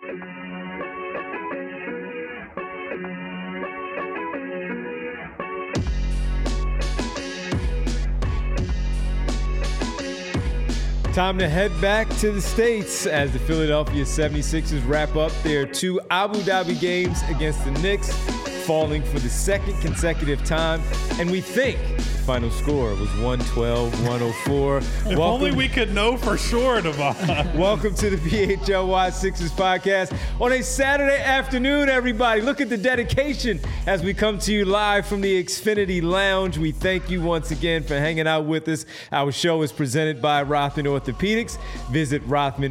Time to head back to the States as the Philadelphia 76ers wrap up their 2 Abu Dhabi games against the Knicks, falling for the second consecutive time. And we think the final score was 112-104. If only we could know for sure, Devon. Welcome to the PHLY Sixers podcast on a Saturday afternoon, everybody. Look at the dedication as we come to you live from the Xfinity Lounge. We thank you once again for hanging out with us. Our show is presented by Rothman Orthopedics. Visit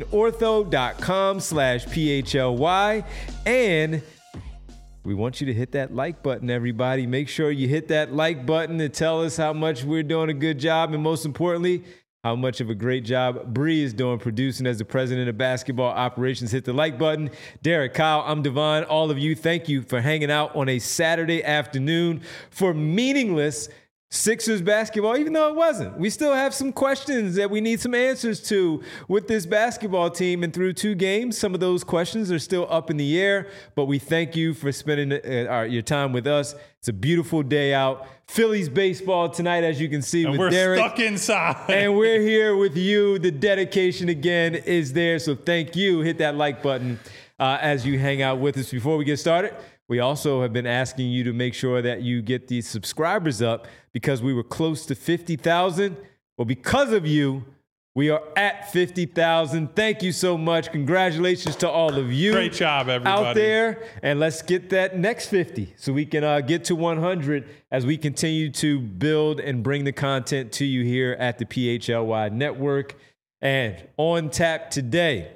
rothmanortho.com/PHLY. And we want you to hit that like button, everybody. Make sure you hit that like button to tell us how much we're doing a good job, and most importantly, how much of a great job Bree is doing producing as the president of basketball operations. Hit the like button. Derek, Kyle, I'm Devon. All of you, thank you for hanging out on a Saturday afternoon for meaningless Sixers basketball, even though it wasn't. We still have some questions that we need some answers to with this basketball team. And through 2 games, some of those questions are still up in the air. But we thank you for spending your time with us. It's a beautiful day out. Phillies baseball tonight, as you can see, and with we're Derek. Stuck inside. And we're here with you. The dedication, again, is there. So thank you. Hit that like button as you hang out with us. Before we get started, we also have been asking you to make sure that you get these subscribers up because we were close to 50,000. Well, because of you, we are at 50,000. Thank you so much. Congratulations to all of you. Great job, everybody. Out there. And let's get that next 50 so we can get to 100 as we continue to build and bring the content to you here at the PHLY Network. And on tap today,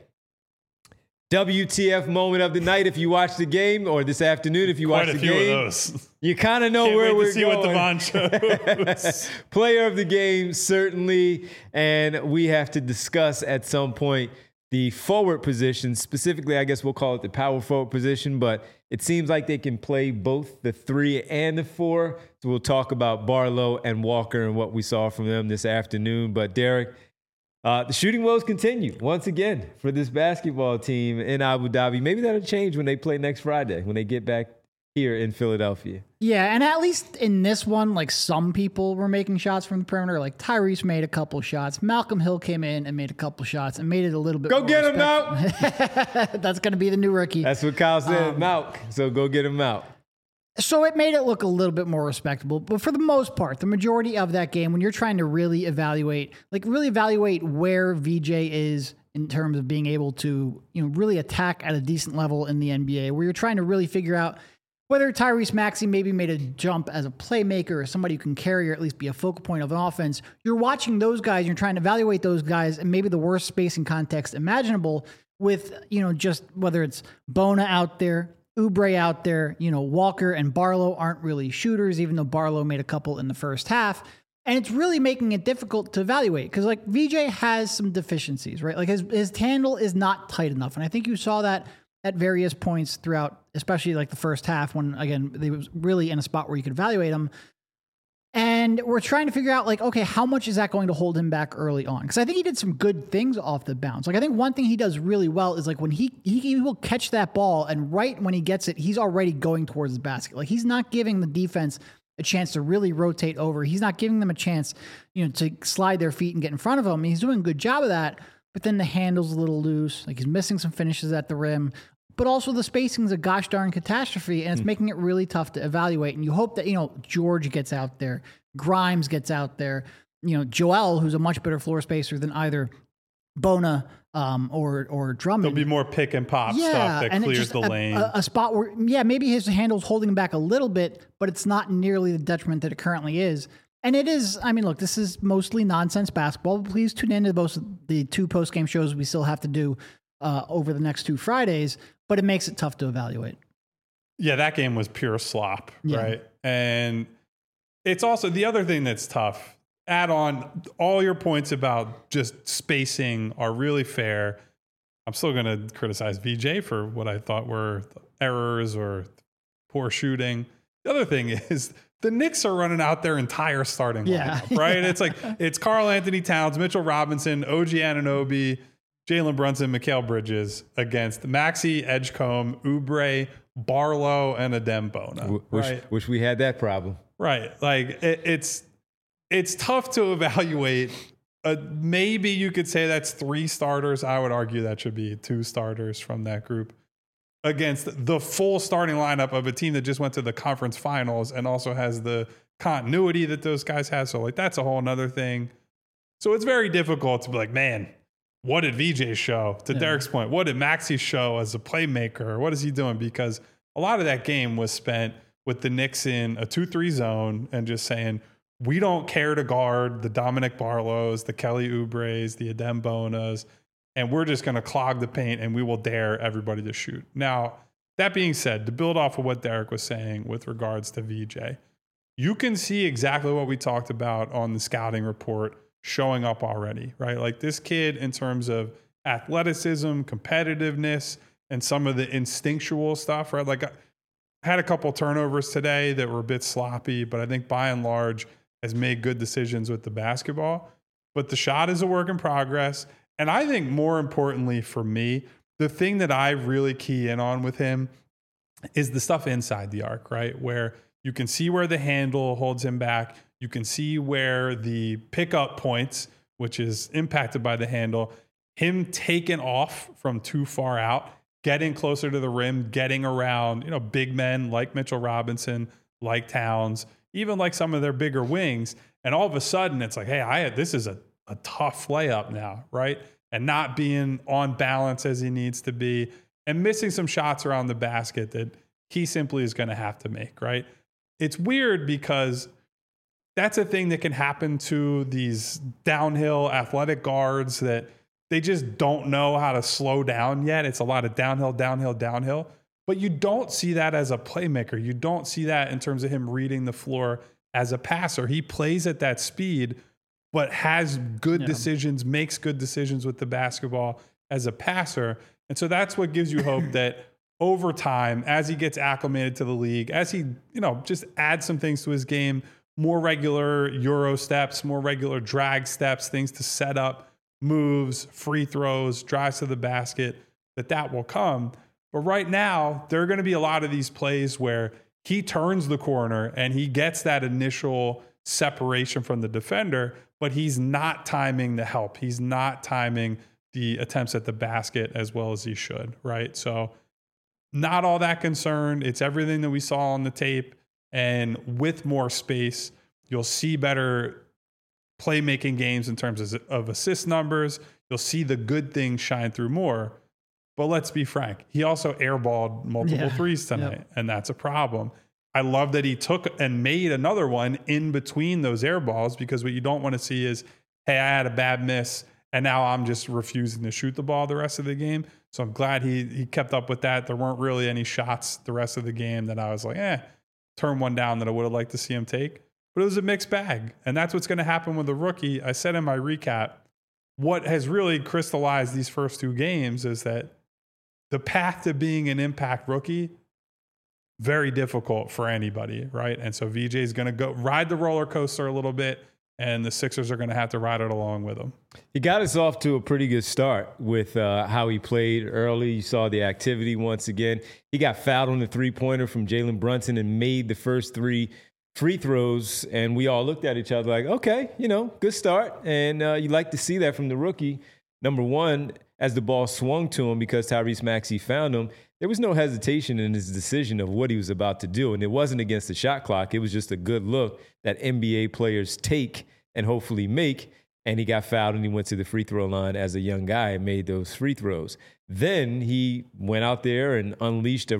WTF moment of the night if you watch the game, or this afternoon if you watch the game. Quite a few of those. You kind of know where we're going. Can't wait to see what Devon shows. Player of the game, certainly. And we have to discuss at some point the forward position. Specifically, I guess we'll call it the power forward position, but it seems like they can play both the 3 and the 4. So we'll talk about Barlow and Walker and what we saw from them this afternoon. But Derek, the shooting woes continue once again for this basketball team in Abu Dhabi. Maybe that'll change when they play next Friday, when they get back here in Philadelphia. Yeah, and at least in this one, like, some people were making shots from the perimeter. Like Tyrese made a couple shots. Malcolm Hill came in and made a couple shots and made it a little bit Go more get him out. That's going to be the new rookie. That's what Kyle said, Malk. So go get him out. So it made it look a little bit more respectable. But for the most part, the majority of that game, when you're trying to really evaluate where VJ is in terms of being able to, really attack at a decent level in the NBA, where you're trying to really figure out whether Tyrese Maxey maybe made a jump as a playmaker or somebody who can carry or at least be a focal point of an offense. You're watching those guys, you're trying to evaluate those guys in maybe the worst spacing context imaginable with, just whether it's Bona out there, Oubre out there, Walker and Barlow aren't really shooters, even though Barlow made a couple in the first half. And it's really making it difficult to evaluate because, like, VJ has some deficiencies, right? Like his handle is not tight enough. And I think you saw that at various points throughout, especially like the first half when, again, they was really in a spot where you could evaluate him. And we're trying to figure out, like, okay, how much is that going to hold him back early on? Because I think he did some good things off the bounce. Like, I think one thing he does really well is, like, when he will catch that ball, and right when he gets it, he's already going towards the basket. Like, he's not giving the defense a chance to really rotate over. He's not giving them a chance, to slide their feet and get in front of him. He's doing a good job of that, but then the handle's a little loose. Like, he's missing some finishes at the rim. But also the spacing's a gosh darn catastrophe, and it's making it really tough to evaluate. And you hope that, George gets out there, Grimes gets out there, Joel, who's a much better floor spacer than either Bona or Drummond. There'll be more pick and pop stuff that clears the lane. A spot where, maybe his handle's holding back a little bit, but it's not nearly the detriment that it currently is. And it is, look, this is mostly nonsense basketball. But please tune into the 2 post-game shows we still have to do over the next 2 Fridays, but it makes it tough to evaluate. Yeah, that game was pure slop, right? And it's also the other thing that's tough. Add on all your points about just spacing are really fair. I'm still going to criticize VJ for what I thought were errors or poor shooting. The other thing is the Knicks are running out their entire starting lineup, right? It's like it's Karl Anthony Towns, Mitchell Robinson, OG Anunoby, Jalen Brunson, Mikal Bridges against Maxey, Edgecombe, Oubre, Barlow, and Adembona. Wish we had that problem. Right. Like it's tough to evaluate. Maybe you could say that's 3 starters. I would argue that should be 2 starters from that group against the full starting lineup of a team that just went to the conference finals and also has the continuity that those guys have. So like that's a whole nother thing. So it's very difficult to be like, man, what did VJ show? To Derek's point, what did Maxey show as a playmaker? What is he doing? Because a lot of that game was spent with the Knicks in a 2-3 zone and just saying, we don't care to guard the Dominic Barlows, the Kelly Oubres, the Adembonas, and we're just going to clog the paint and we will dare everybody to shoot. Now, that being said, to build off of what Derek was saying with regards to VJ, you can see exactly what we talked about on the scouting report showing up already, right? Like this kid in terms of athleticism, competitiveness, and some of the instinctual stuff, right? Like I had a couple turnovers today that were a bit sloppy, but I think by and large has made good decisions with the basketball. But the shot is a work in progress. And I think more importantly for me, the thing that I really key in on with him is the stuff inside the arc, right? Where you can see where the handle holds him back. You can see where the pickup points, which is impacted by the handle, him taking off from too far out, getting closer to the rim, getting around, big men like Mitchell Robinson, like Towns, even like some of their bigger wings. And all of a sudden it's like, hey, this is a tough layup now, right? And not being on balance as he needs to be and missing some shots around the basket that he simply is going to have to make, right? It's weird because that's a thing that can happen to these downhill athletic guards that they just don't know how to slow down yet. It's a lot of downhill, downhill, downhill. But you don't see that as a playmaker. You don't see that in terms of him reading the floor as a passer. He plays at that speed, but has good decisions, makes good decisions with the basketball as a passer. And so that's what gives you hope that over time, as he gets acclimated to the league, as he, just adds some things to his game, more regular Euro steps, more regular drag steps, things to set up, moves, free throws, drives to the basket, that will come. But right now, there are going to be a lot of these plays where he turns the corner and he gets that initial separation from the defender, but he's not timing the help. He's not timing the attempts at the basket as well as he should, right? So not all that concerned. It's everything that we saw on the tape. And with more space, you'll see better playmaking games in terms of assist numbers. You'll see the good things shine through more. But let's be frank, he also airballed multiple threes tonight, and that's a problem. I love that he took and made another one in between those air balls, because what you don't want to see is, hey, I had a bad miss, and now I'm just refusing to shoot the ball the rest of the game. So I'm glad he kept up with that. There weren't really any shots the rest of the game that I was like, turn one down that I would have liked to see him take. But it was a mixed bag, and that's what's going to happen with the rookie. I said in my recap, what has really crystallized these first 2 games is that the path to being an impact rookie, very difficult for anybody, right? And so VJ is going to go ride the roller coaster a little bit, and the Sixers are going to have to ride it along with him. He got us off to a pretty good start with how he played early. You saw the activity once again. He got fouled on the three-pointer from Jalen Brunson and made the first 3 free throws, and we all looked at each other like, okay, good start. And you like to see that from the rookie. Number one, as the ball swung to him because Tyrese Maxey found him, there was no hesitation in his decision of what he was about to do. And it wasn't against the shot clock. It was just a good look that NBA players take and hopefully make. And he got fouled and he went to the free throw line as a young guy and made those free throws. Then he went out there and unleashed a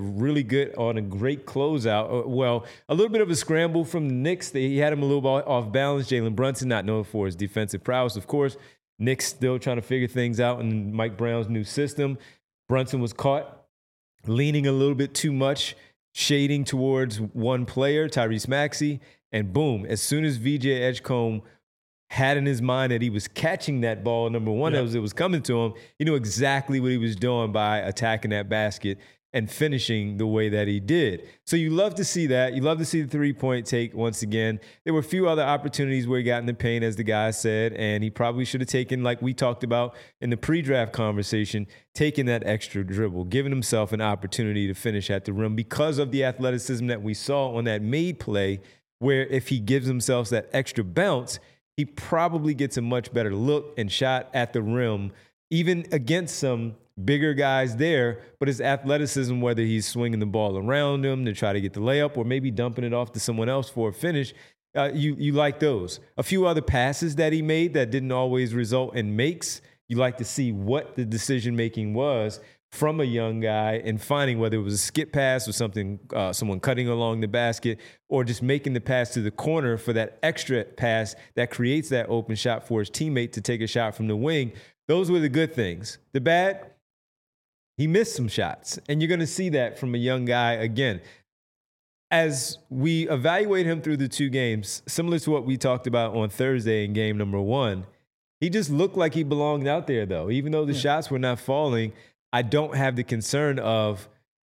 great closeout. Well, a little bit of a scramble from the Knicks. He had him a little bit off balance. Jalen Brunson, not known for his defensive prowess, of course. Knicks still trying to figure things out in Mike Brown's new system. Brunson was caught leaning a little bit too much, shading towards one player, Tyrese Maxey, and boom, as soon as VJ Edgecombe had in his mind that he was catching that ball, number one, as it was coming to him. He knew exactly what he was doing by attacking that basket and finishing the way that he did. So you love to see that. You love to see the three-point take once again. There were a few other opportunities where he got in the paint, as the guy said, and he probably should have taken, like we talked about in the pre-draft conversation, taking that extra dribble, giving himself an opportunity to finish at the rim because of the athleticism that we saw on that made play, where if he gives himself that extra bounce, he probably gets a much better look and shot at the rim, even against some bigger guys there, but his athleticism, whether he's swinging the ball around him to try to get the layup or maybe dumping it off to someone else for a finish, you like those. A few other passes that he made that didn't always result in makes, you like to see what the decision-making was from a young guy and finding whether it was a skip pass or something, someone cutting along the basket, or just making the pass to the corner for that extra pass that creates that open shot for his teammate to take a shot from the wing. Those were the good things. The bad, he missed some shots, and you're going to see that from a young guy again. As we evaluate him through the two games, similar to what we talked about on Thursday in game number one, he just looked like he belonged out there, though. Even though the shots were not falling, I don't have the concern of,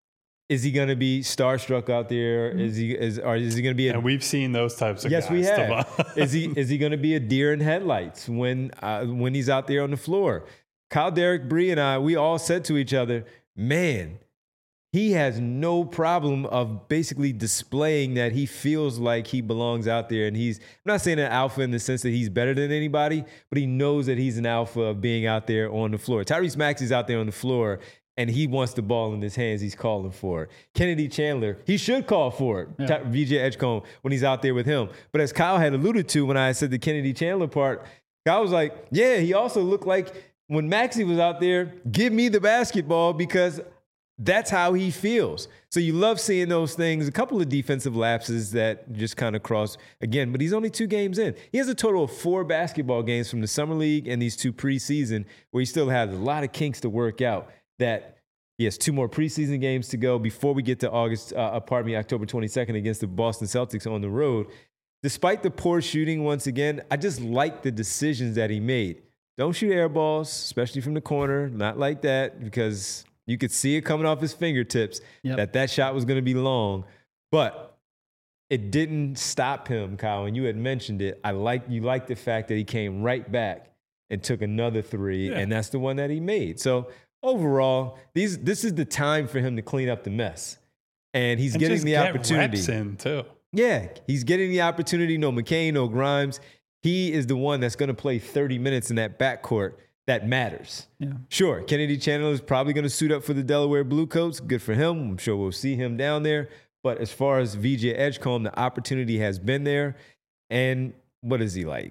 is he going to be starstruck out there? Is he going to be? And we've seen those types of guys. Yes, we have. is he going to be a deer in headlights when he's out there on the floor? Kyle, Derek, Bree, and I, we all said to each other, man, he has no problem of basically displaying that he feels like he belongs out there. And I'm not saying an alpha in the sense that he's better than anybody, but he knows that he's an alpha of being out there on the floor. Tyrese Maxey's out there on the floor, and he wants the ball in his hands. He's calling for it. Kennedy Chandler, he should call for it. Yeah. VJ Edgecombe, when he's out there with him. But as Kyle had alluded to when I said the Kennedy Chandler part, Kyle was like, yeah, he also looked like when Maxey was out there, give me the basketball, because that's how he feels. So you love seeing those things. A couple of defensive lapses that just kind of cross again, but he's only 2 games in. He has a total of 4 basketball games from the summer league and these 2 preseason, where he still has a lot of kinks to work out. That he has 2 more preseason games to go before we get to October 22nd against the Boston Celtics on the road. Despite the poor shooting, once again, I just like the decisions that he made. Don't shoot air balls, especially from the corner. Not like that, because you could see it coming off his fingertips that shot was going to be long. But it didn't stop him, Kyle, and you had mentioned it. You like the fact that he came right back and took another 3, and that's the one that he made. So overall, this is the time for him to clean up the mess. And he's getting the opportunity. Reps in too. Yeah, he's getting the opportunity. No McCain, no Grimes. He is the one that's going to play 30 minutes in that backcourt that matters. Yeah. Sure, Kennedy Chandler is probably going to suit up for the Delaware Bluecoats. Good for him. I'm sure we'll see him down there. But as far as VJ Edgecombe, the opportunity has been there. And what is he like?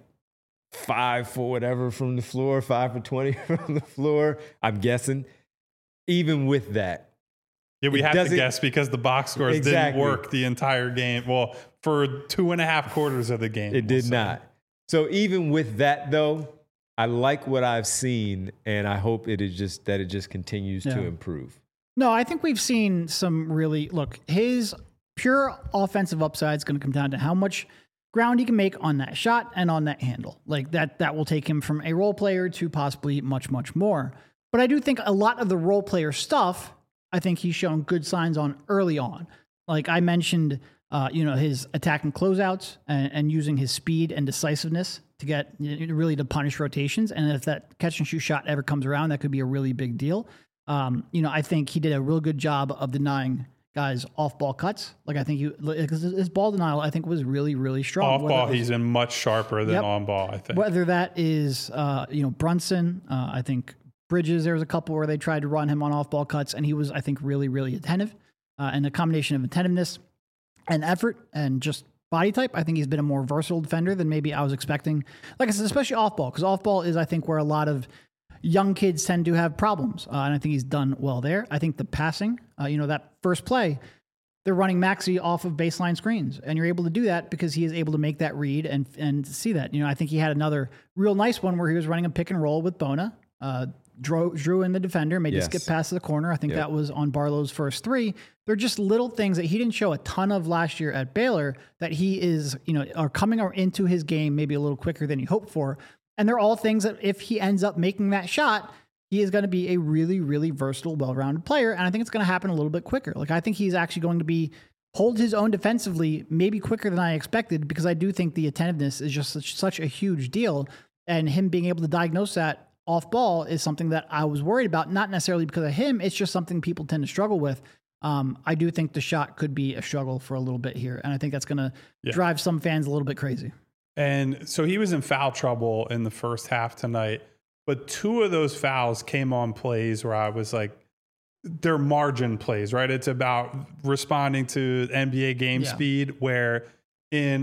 5 for whatever from the floor, 5 for 20 from the floor, I'm guessing. Even with that. Yeah, we have to guess because the box scores didn't work the entire game. Well, for 2.5 quarters of the game. It did not. So even with that, though, I like what I've seen, and I hope it just continues to improve. No, I think we've seen some really, look, his pure offensive upside is going to come down to how much ground he can make on that shot and on that handle. Like that will take him from a role player to possibly much, much more. But I do think a lot of the role player stuff, I think he's shown good signs on early on. Like I mentioned, his attacking closeouts and using his speed and decisiveness to get really to punish rotations. And if that catch and shoot shot ever comes around, that could be a really big deal. I think he did a real good job of denying guys off-ball cuts. Like I think his ball denial, I think, was really, really strong. Off-ball, he's been much sharper than on-ball, I think. Whether that is, Brunson, I think Bridges, there was a couple where they tried to run him on off-ball cuts, and he was, I think, really, really attentive. And a combination of attentiveness and effort and just body type, I think he's been a more versatile defender than maybe I was expecting. Like I said, especially off-ball, because off-ball is, I think, where a lot of young kids tend to have problems. And I think he's done well there. I think the passing, that first play, they're running Maxey off of baseline screens. And you're able to do that because he is able to make that read and see that. I think he had another real nice one where he was running a pick and roll with Bona. drew in the defender, made the Yes. skip pass to the corner. I think that was on Barlow's first three. They're just little things that he didn't show a ton of last year at Baylor that he is, are coming into his game maybe a little quicker than he hoped for. And they're all things that if he ends up making that shot, he is going to be a really, really versatile, well-rounded player. And I think it's going to happen a little bit quicker. Like, I think he's actually going to hold his own defensively, maybe quicker than I expected, because I do think the attentiveness is just such a huge deal. And him being able to diagnose that off ball is something that I was worried about, not necessarily because of him. It's just something people tend to struggle with. I do think the shot could be a struggle for a little bit here. And I think that's going to drive some fans a little bit crazy. And so he was in foul trouble in the first half tonight, but 2 of those fouls came on plays where I was like, they're margin plays, right? It's about responding to NBA game speed, where in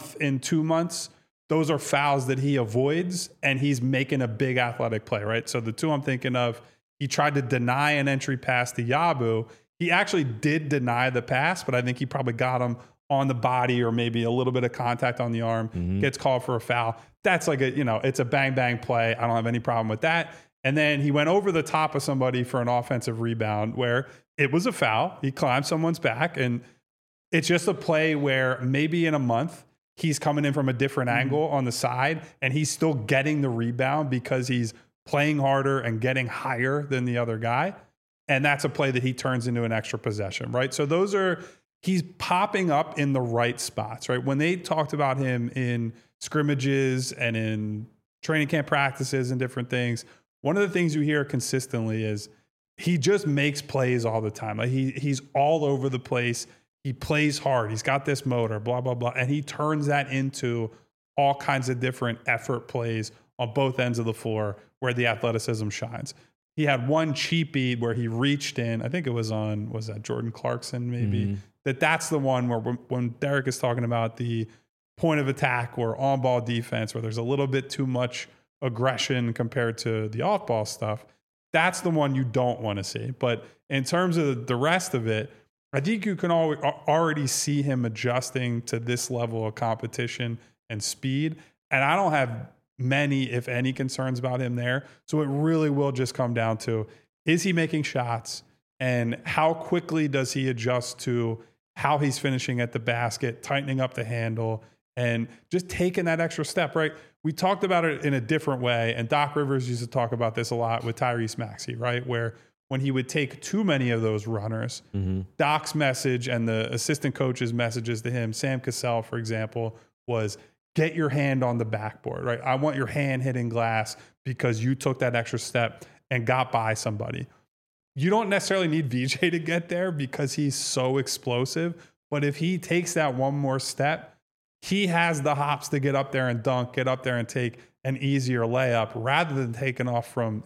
2 months, those are fouls that he avoids and he's making a big athletic play, right? So the 2 I'm thinking of, he tried to deny an entry pass to Yabu. He actually did deny the pass, but I think he probably got him on the body or maybe a little bit of contact on the arm, gets called for a foul. That's like it's a bang, bang play. I don't have any problem with that. And then he went over the top of somebody for an offensive rebound where it was a foul. He climbed someone's back, and it's just a play where maybe in a month he's coming in from a different angle on the side and he's still getting the rebound because he's playing harder and getting higher than the other guy. And that's a play that he turns into an extra possession, right? So he's popping up in the right spots, right? When they talked about him in scrimmages and in training camp practices and different things, one of the things you hear consistently is he just makes plays all the time. Like he's all over the place. He plays hard. He's got this motor, blah, blah, blah. And he turns that into all kinds of different effort plays on both ends of the floor where the athleticism shines. He had one cheapie where he reached in. I think it was that Jordan Clarkson maybe? That's the one where when Derek is talking about the point of attack or on-ball defense where there's a little bit too much aggression compared to the off-ball stuff, that's the one you don't want to see. But in terms of the rest of it, I think you can already see him adjusting to this level of competition and speed. And I don't have many, if any, concerns about him there. So it really will just come down to, is he making shots and how quickly does he adjust to how he's finishing at the basket, tightening up the handle, and just taking that extra step, right? We talked about it in a different way, and Doc Rivers used to talk about this a lot with Tyrese Maxey, right? Where when he would take too many of those runners, Doc's message and the assistant coach's messages to him, Sam Cassell, for example, was get your hand on the backboard, right? I want your hand hitting glass because you took that extra step and got by somebody. You don't necessarily need VJ to get there because he's so explosive, but if he takes that one more step, he has the hops to get up there and dunk, get up there and take an easier layup rather than taking off from,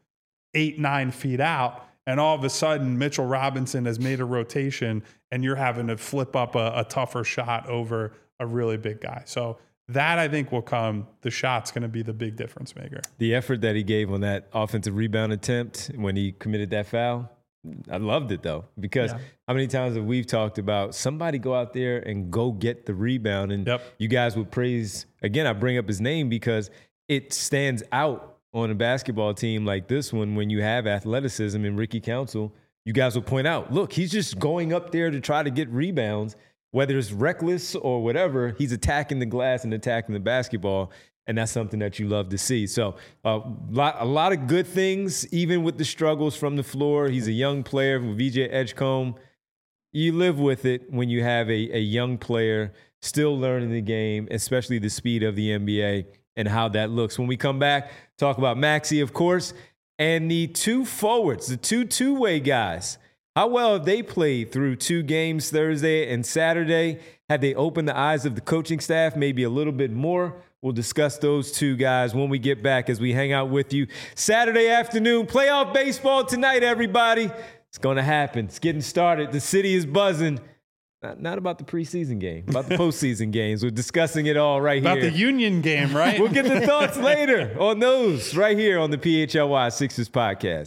8-9 feet out. And all of a sudden, Mitchell Robinson has made a rotation and you're having to flip up a tougher shot over a really big guy. So that, I think, will come. The shot's going to be the big difference maker. The effort that he gave on that offensive rebound attempt when he committed that foul, I loved it, though, because how many times have we talked about somebody go out there and go get the rebound, and you guys would praise, again, I bring up his name because it stands out on a basketball team like this one when you have athleticism in Ricky Council. You guys will point out, look, he's just going up there to try to get rebounds. Whether it's reckless or whatever, he's attacking the glass and attacking the basketball, and that's something that you love to see. So a lot of good things, even with the struggles from the floor. He's a young player with VJ Edgecombe. You live with it when you have a young player still learning the game, especially the speed of the NBA and how that looks. When we come back, talk about Maxey, of course, and the 2 forwards, the two-way guys. How well have they played through 2 games Thursday and Saturday? Had they opened the eyes of the coaching staff maybe a little bit more? We'll discuss those 2 guys when we get back as we hang out with you. Saturday afternoon, playoff baseball tonight, everybody. It's going to happen. It's getting started. The city is buzzing. Not about the preseason game, about the postseason games. We're discussing it all right here. About the Union game, right? We'll get the thoughts later on those right here on the PHLY Sixers podcast.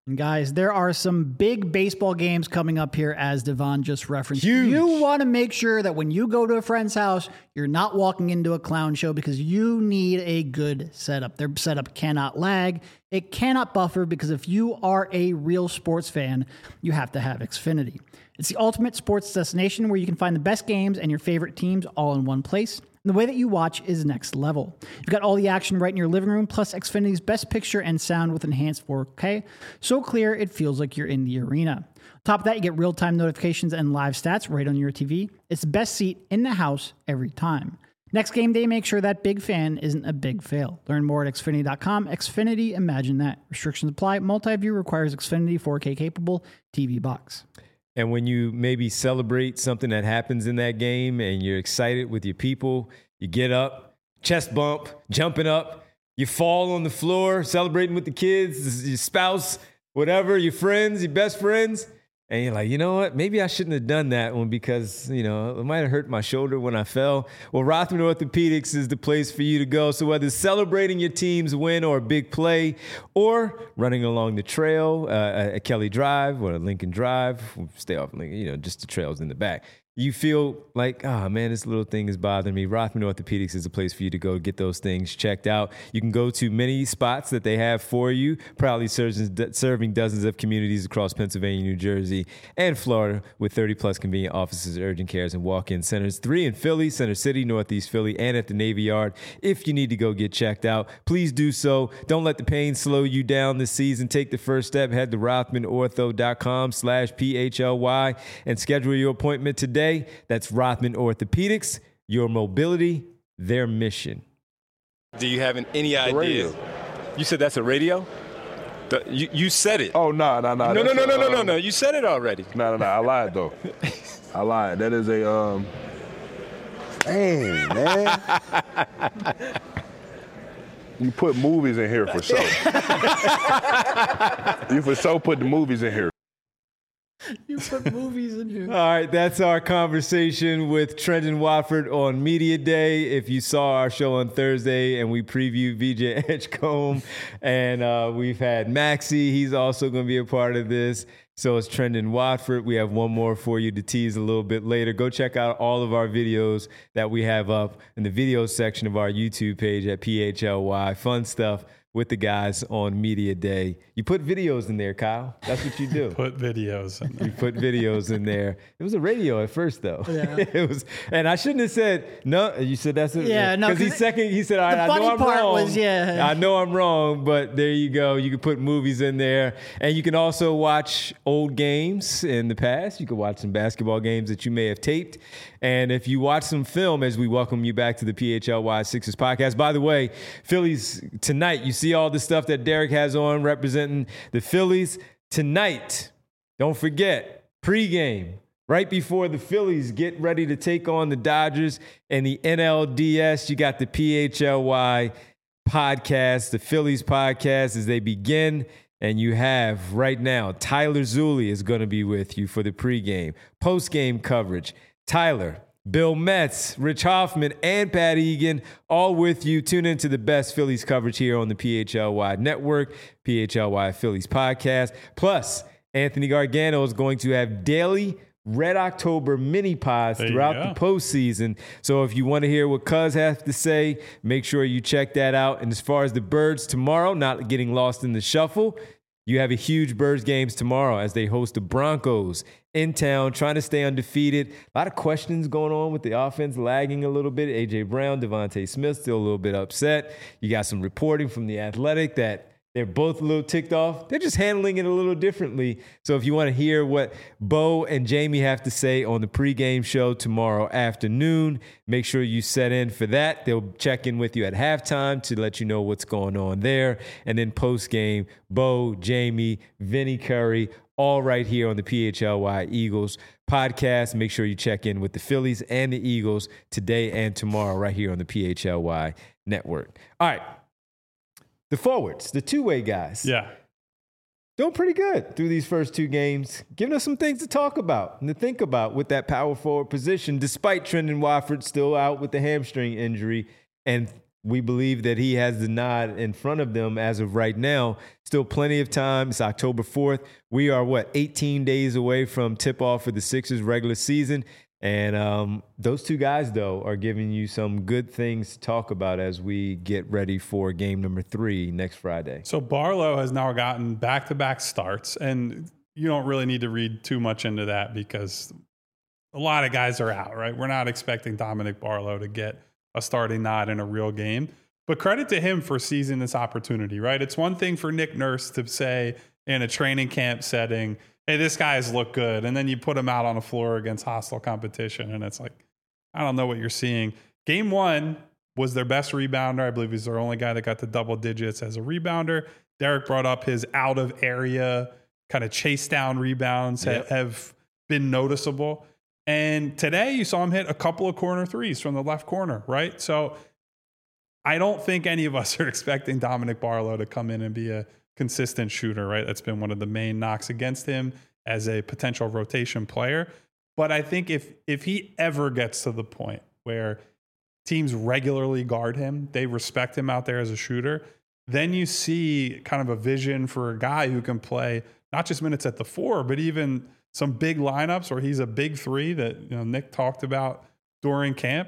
And guys, there are some big baseball games coming up here, as Devon just referenced. Huge. You want to make sure that when you go to a friend's house, you're not walking into a clown show, because you need a good setup. Their setup cannot lag. It cannot buffer, because if you are a real sports fan, you have to have Xfinity. It's the ultimate sports destination where you can find the best games and your favorite teams all in one place. And the way that you watch is next level. You've got all the action right in your living room, plus Xfinity's best picture and sound with enhanced 4K. So clear, it feels like you're in the arena. On top of that, you get real-time notifications and live stats right on your TV. It's the best seat in the house every time. Next game day, make sure that big fan isn't a big fail. Learn more at Xfinity.com. Xfinity, imagine that. Restrictions apply. Multi-view requires Xfinity 4K capable TV box. And when you maybe celebrate something that happens in that game and you're excited with your people, you get up, chest bump, jumping up, you fall on the floor, celebrating with the kids, your spouse, whatever, your friends, your best friends. And you're like, you know what? Maybe I shouldn't have done that one because, it might have hurt my shoulder when I fell. Well, Rothman Orthopedics is the place for you to go. So whether celebrating your team's win or a big play, or running along the trail at Kelly Drive or Lincoln Drive, stay off Lincoln, just the trails in the back. You feel like, oh man, this little thing is bothering me. Rothman Orthopedics is the place for you to go get those things checked out. You can go to many spots that they have for you, proudly serving dozens of communities across Pennsylvania, New Jersey, and Florida, with 30 plus convenient offices, urgent cares, and walk-in centers. 3 in Philly, Center City, Northeast Philly, and at the Navy Yard. If you need to go get checked out, please do so. Don't let the pain slow you down this season. Take the first step. Head to rothmanortho.com/PHLY and schedule your appointment today. That's Rothman Orthopedics, your mobility, their mission. Do you have any idea? Radio. You said that's a radio? You said it. Oh, no. No. You said it already. No. I lied, though. I lied. That is a, Dang, man. You put movies in here for sure. You for sure put the movies in here. You put movies in here. All right, that's our conversation with Trendon Watford on Media Day. If you saw our show on Thursday and we previewed VJ Edgecombe, and we've had Maxie, he's also going to be a part of this. So it's Trendon Watford. We have one more for you to tease a little bit later. Go check out all of our videos that we have up in the video section of our YouTube page at PHLY. Fun stuff with the guys on Media Day. You put videos in there, Kyle. That's what you do. Put videos in there. You put videos in there. It was a radio at first, though. Yeah. It was, and I shouldn't have said no. You said that's it. Yeah, no. Because he said, all right, I know I'm wrong. I know I'm wrong, but there you go. You can put movies in there, and you can also watch old games in the past. You can watch some basketball games that you may have taped. And if you watch some film, as we welcome you back to the PHLY Sixers podcast. By the way, Phillies tonight, you see all the stuff that Derek has on representing the Phillies tonight. Don't forget, pregame, right before the Phillies get ready to take on the Dodgers and the NLDS. You got the PHLY podcast, the Phillies podcast, as they begin. And you have right now, Tyler Zulli is going to be with you for the pregame, postgame coverage. Tyler, Bill Metz, Rich Hoffman, and Pat Egan, all with you. Tune into the best Phillies coverage here on the PHLY Network, PHLY Phillies podcast. Plus, Anthony Gargano is going to have daily Red October mini pods throughout the postseason. So if you want to hear what Cuz has to say, make sure you check that out. And as far as the Birds tomorrow, not getting lost in the shuffle, you have a huge Birds games tomorrow as they host the Broncos in town, trying to stay undefeated. A lot of questions going on with the offense lagging a little bit. A.J. Brown, Devontae Smith still a little bit upset. You got some reporting from The Athletic that they're both a little ticked off. They're just handling it a little differently. So if you want to hear what Bo and Jamie have to say on the pregame show tomorrow afternoon, make sure you set in for that. They'll check in with you at halftime to let you know what's going on there. And then postgame, Bo, Jamie, Vinny Curry, all right here on the PHLY Eagles podcast. Make sure you check in with the Phillies and the Eagles today and tomorrow right here on the PHLY network. All right. The forwards, the two-way guys. Yeah. Doing pretty good through these first two games, giving us some things to talk about and to think about with that power forward position, despite Trendon Watford still out with the hamstring injury and we believe that he has the nod in front of them as of right now. Still plenty of time. It's October 4th. We are, 18 days away from tip-off for the Sixers regular season. And those two guys, though, are giving you some good things to talk about as we get ready for game number 3 next Friday. So Barlow has now gotten back-to-back starts, and you don't really need to read too much into that because a lot of guys are out, right? We're not expecting Dominic Barlow to get a starting nod in a real game. But credit to him for seizing this opportunity, right? It's one thing for Nick Nurse to say in a training camp setting, hey, this guy has looked good. And then you put him out on the floor against hostile competition. And it's like, I don't know what you're seeing. Game 1 was their best rebounder. I believe he's their only guy that got to double digits as a rebounder. Derek brought up his out of area kind of chase down rebounds have been noticeable. And today you saw him hit a couple of corner threes from the left corner, right? So I don't think any of us are expecting Dominic Barlow to come in and be a consistent shooter, right? That's been one of the main knocks against him as a potential rotation player. But I think if he ever gets to the point where teams regularly guard him, they respect him out there as a shooter, then you see kind of a vision for a guy who can play not just minutes at the 4, but even some big lineups where he's a big 3 that Nick talked about during camp.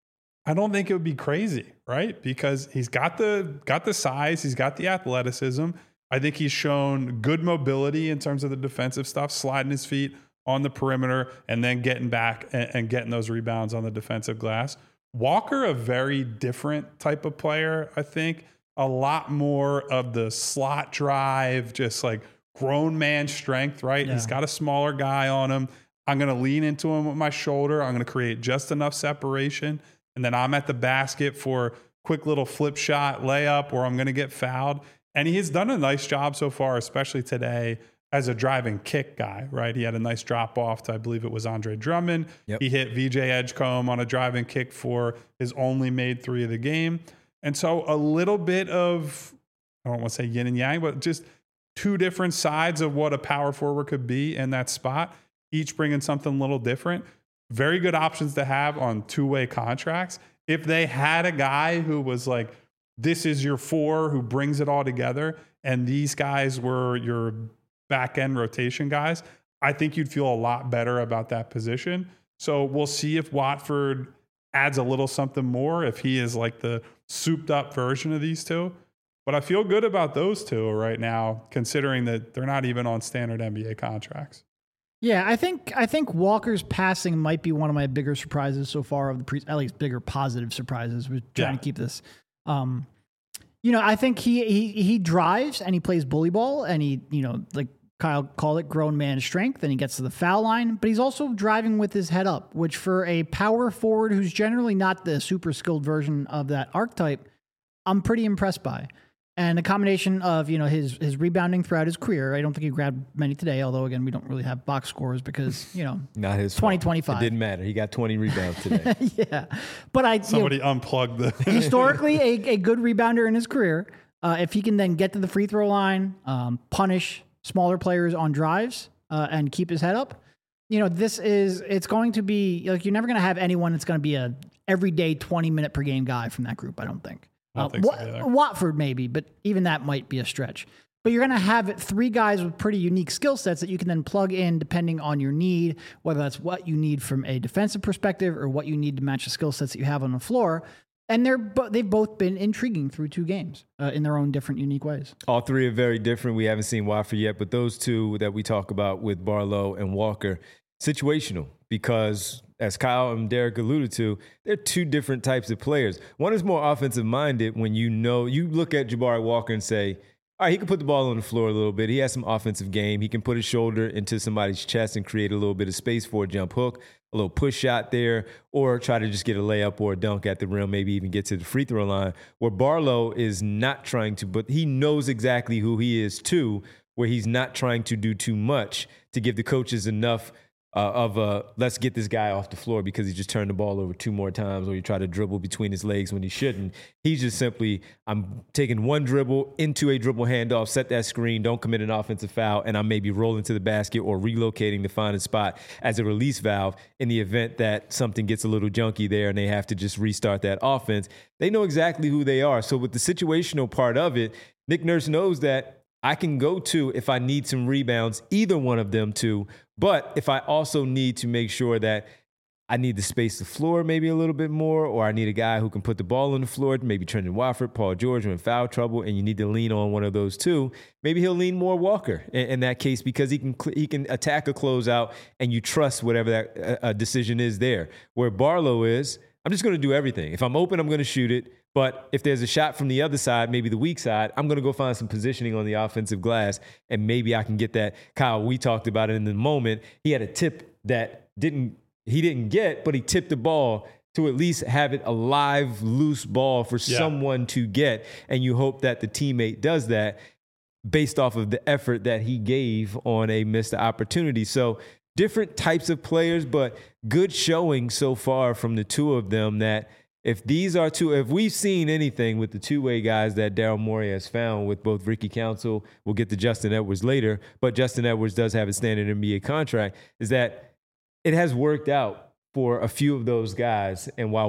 I don't think it would be crazy, right? Because he's got the size, he's got the athleticism. I think he's shown good mobility in terms of the defensive stuff, sliding his feet on the perimeter and then getting back and getting those rebounds on the defensive glass. Walker, a very different type of player, I think. A lot more of the slot drive, just like grown man strength, right? Yeah. He's got a smaller guy on him. I'm going to lean into him with my shoulder. I'm going to create just enough separation. And then I'm at the basket for quick little flip shot layup or I'm going to get fouled. And he has done a nice job so far, especially today, as a driving kick guy, right? He had a nice drop off to, I believe it was Andre Drummond. Yep. He hit VJ Edgecombe on a driving kick for his only made 3 of the game. And so a little bit of, I don't want to say yin and yang, but just 2 different sides of what a power forward could be in that spot, each bringing something a little different. Very good options to have on 2-way contracts. If they had a guy who was like, this is your 4 who brings it all together, and these guys were your back end rotation guys, I think you'd feel a lot better about that position. So we'll see if Watford adds a little something more, if he is like the souped up version of these 2. But I feel good about those 2 right now, considering that they're not even on standard NBA contracts. Yeah, I think Walker's passing might be one of my bigger surprises so far of the at least bigger positive surprises. We're trying to keep this. I think he drives and he plays bully ball and he, like Kyle called it, grown man strength, and he gets to the foul line, but he's also driving with his head up, which for a power forward who's generally not the super skilled version of that archetype, I'm pretty impressed by. And a combination of, his rebounding throughout his career. I don't think he grabbed many today, although, again, we don't really have box scores because, not his 2025. It didn't matter. He got 20 rebounds today. Yeah. But somebody unplugged the historically a good rebounder in his career. If he can then get to the free throw line, punish smaller players on drives, and keep his head up, it's going to be like, you're never going to have anyone that's going to be a everyday 20-minute per game guy from that group, I don't think. Watford maybe, but even that might be a stretch. But you're going to have 3 guys with pretty unique skill sets that you can then plug in depending on your need, whether that's what you need from a defensive perspective or what you need to match the skill sets that you have on the floor. And they've both been intriguing through 2 games in their own different, unique ways. All 3 are very different. We haven't seen Watford yet, but those 2 that we talk about with Barlow and Walker, situational, because as Kyle and Derek alluded to, they're 2 different types of players. One is more offensive minded when you look at Jabari Walker and say, all right, he can put the ball on the floor a little bit. He has some offensive game. He can put his shoulder into somebody's chest and create a little bit of space for a jump hook, a little push shot there, or try to just get a layup or a dunk at the rim, maybe even get to the free throw line, where Barlow is not trying to, but he knows exactly who he is too, where he's not trying to do too much to give the coaches enough let's get this guy off the floor because he just turned the ball over 2 more times, or you try to dribble between his legs when he shouldn't. He's just simply, I'm taking one dribble into a dribble handoff, set that screen, don't commit an offensive foul, and I'm maybe rolling to the basket or relocating to find a spot as a release valve in the event that something gets a little junky there and they have to just restart that offense. They know exactly who they are. So with the situational part of it, Nick Nurse knows that I can go to, if I need some rebounds, either one of them two. But if I also need to make sure that I need to space the floor maybe a little bit more, or I need a guy who can put the ball on the floor, maybe Trendon Watford, Paul George are in foul trouble, and you need to lean on one of those two, maybe he'll lean more Walker in that case because he can attack a closeout and you trust whatever that decision is there. Where Barlow is, I'm just going to do everything. If I'm open, I'm going to shoot it. But if there's a shot from the other side, maybe the weak side, I'm going to go find some positioning on the offensive glass, and maybe I can get that. Kyle, we talked about it in the moment. He had a tip that he didn't get, but he tipped the ball to at least have it a live, loose ball for someone to get, and you hope that the teammate does that based off of the effort that he gave on a missed opportunity. So different types of players, but good showing so far from the two of them that if we've seen anything with the two-way guys that Daryl Morey has found with both Ricky Council, we'll get to Justin Edwards later, but Justin Edwards does have a standard NBA contract, is that it has worked out for a few of those guys. And while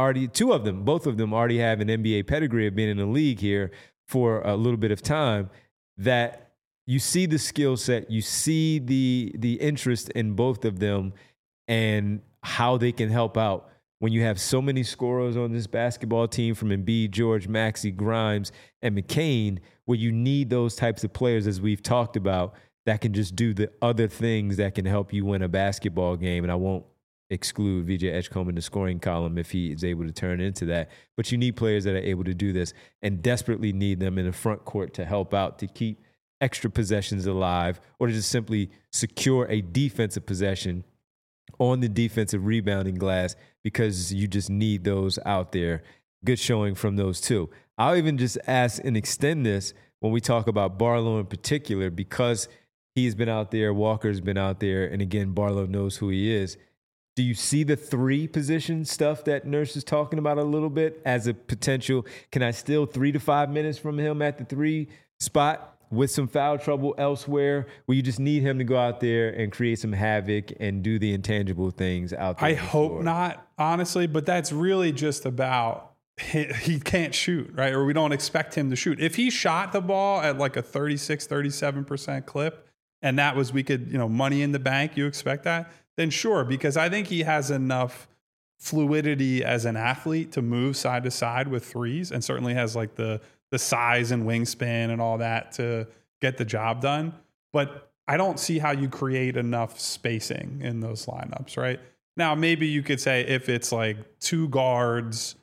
both of them already have an NBA pedigree of being in the league here for a little bit of time, that you see the skill set, you see the interest in both of them and how they can help out. When you have so many scorers on this basketball team from Embiid, George, Maxey, Grimes, and McCain, where you need those types of players, as we've talked about, that can just do the other things that can help you win a basketball game. And I won't exclude VJ Edgecombe in the scoring column if he is able to turn into that. But you need players that are able to do this and desperately need them in the front court to help out, to keep extra possessions alive, or to just simply secure a defensive possession on the defensive rebounding glass, because you just need those out there. Good showing from those two. I'll even just ask and extend this when we talk about Barlow in particular, because he's been out there, Walker's been out there, and again, Barlow knows who he is. Do you see the 3 position stuff that Nurse is talking about a little bit as a potential? Can I steal 3 to 5 minutes from him at the 3 spot with some foul trouble elsewhere, where you just need him to go out there and create some havoc and do the intangible things out there? I hope not, honestly, but that's really just about he can't shoot, right? Or we don't expect him to shoot. If he shot the ball at like a 36, 37% clip, and that was, we could, money in the bank, you expect that, then sure, because I think he has enough fluidity as an athlete to move side to side with threes, and certainly has like the size and wingspan and all that to get the job done. But I don't see how you create enough spacing in those lineups, right? Now, maybe you could say if it's like 2 guards,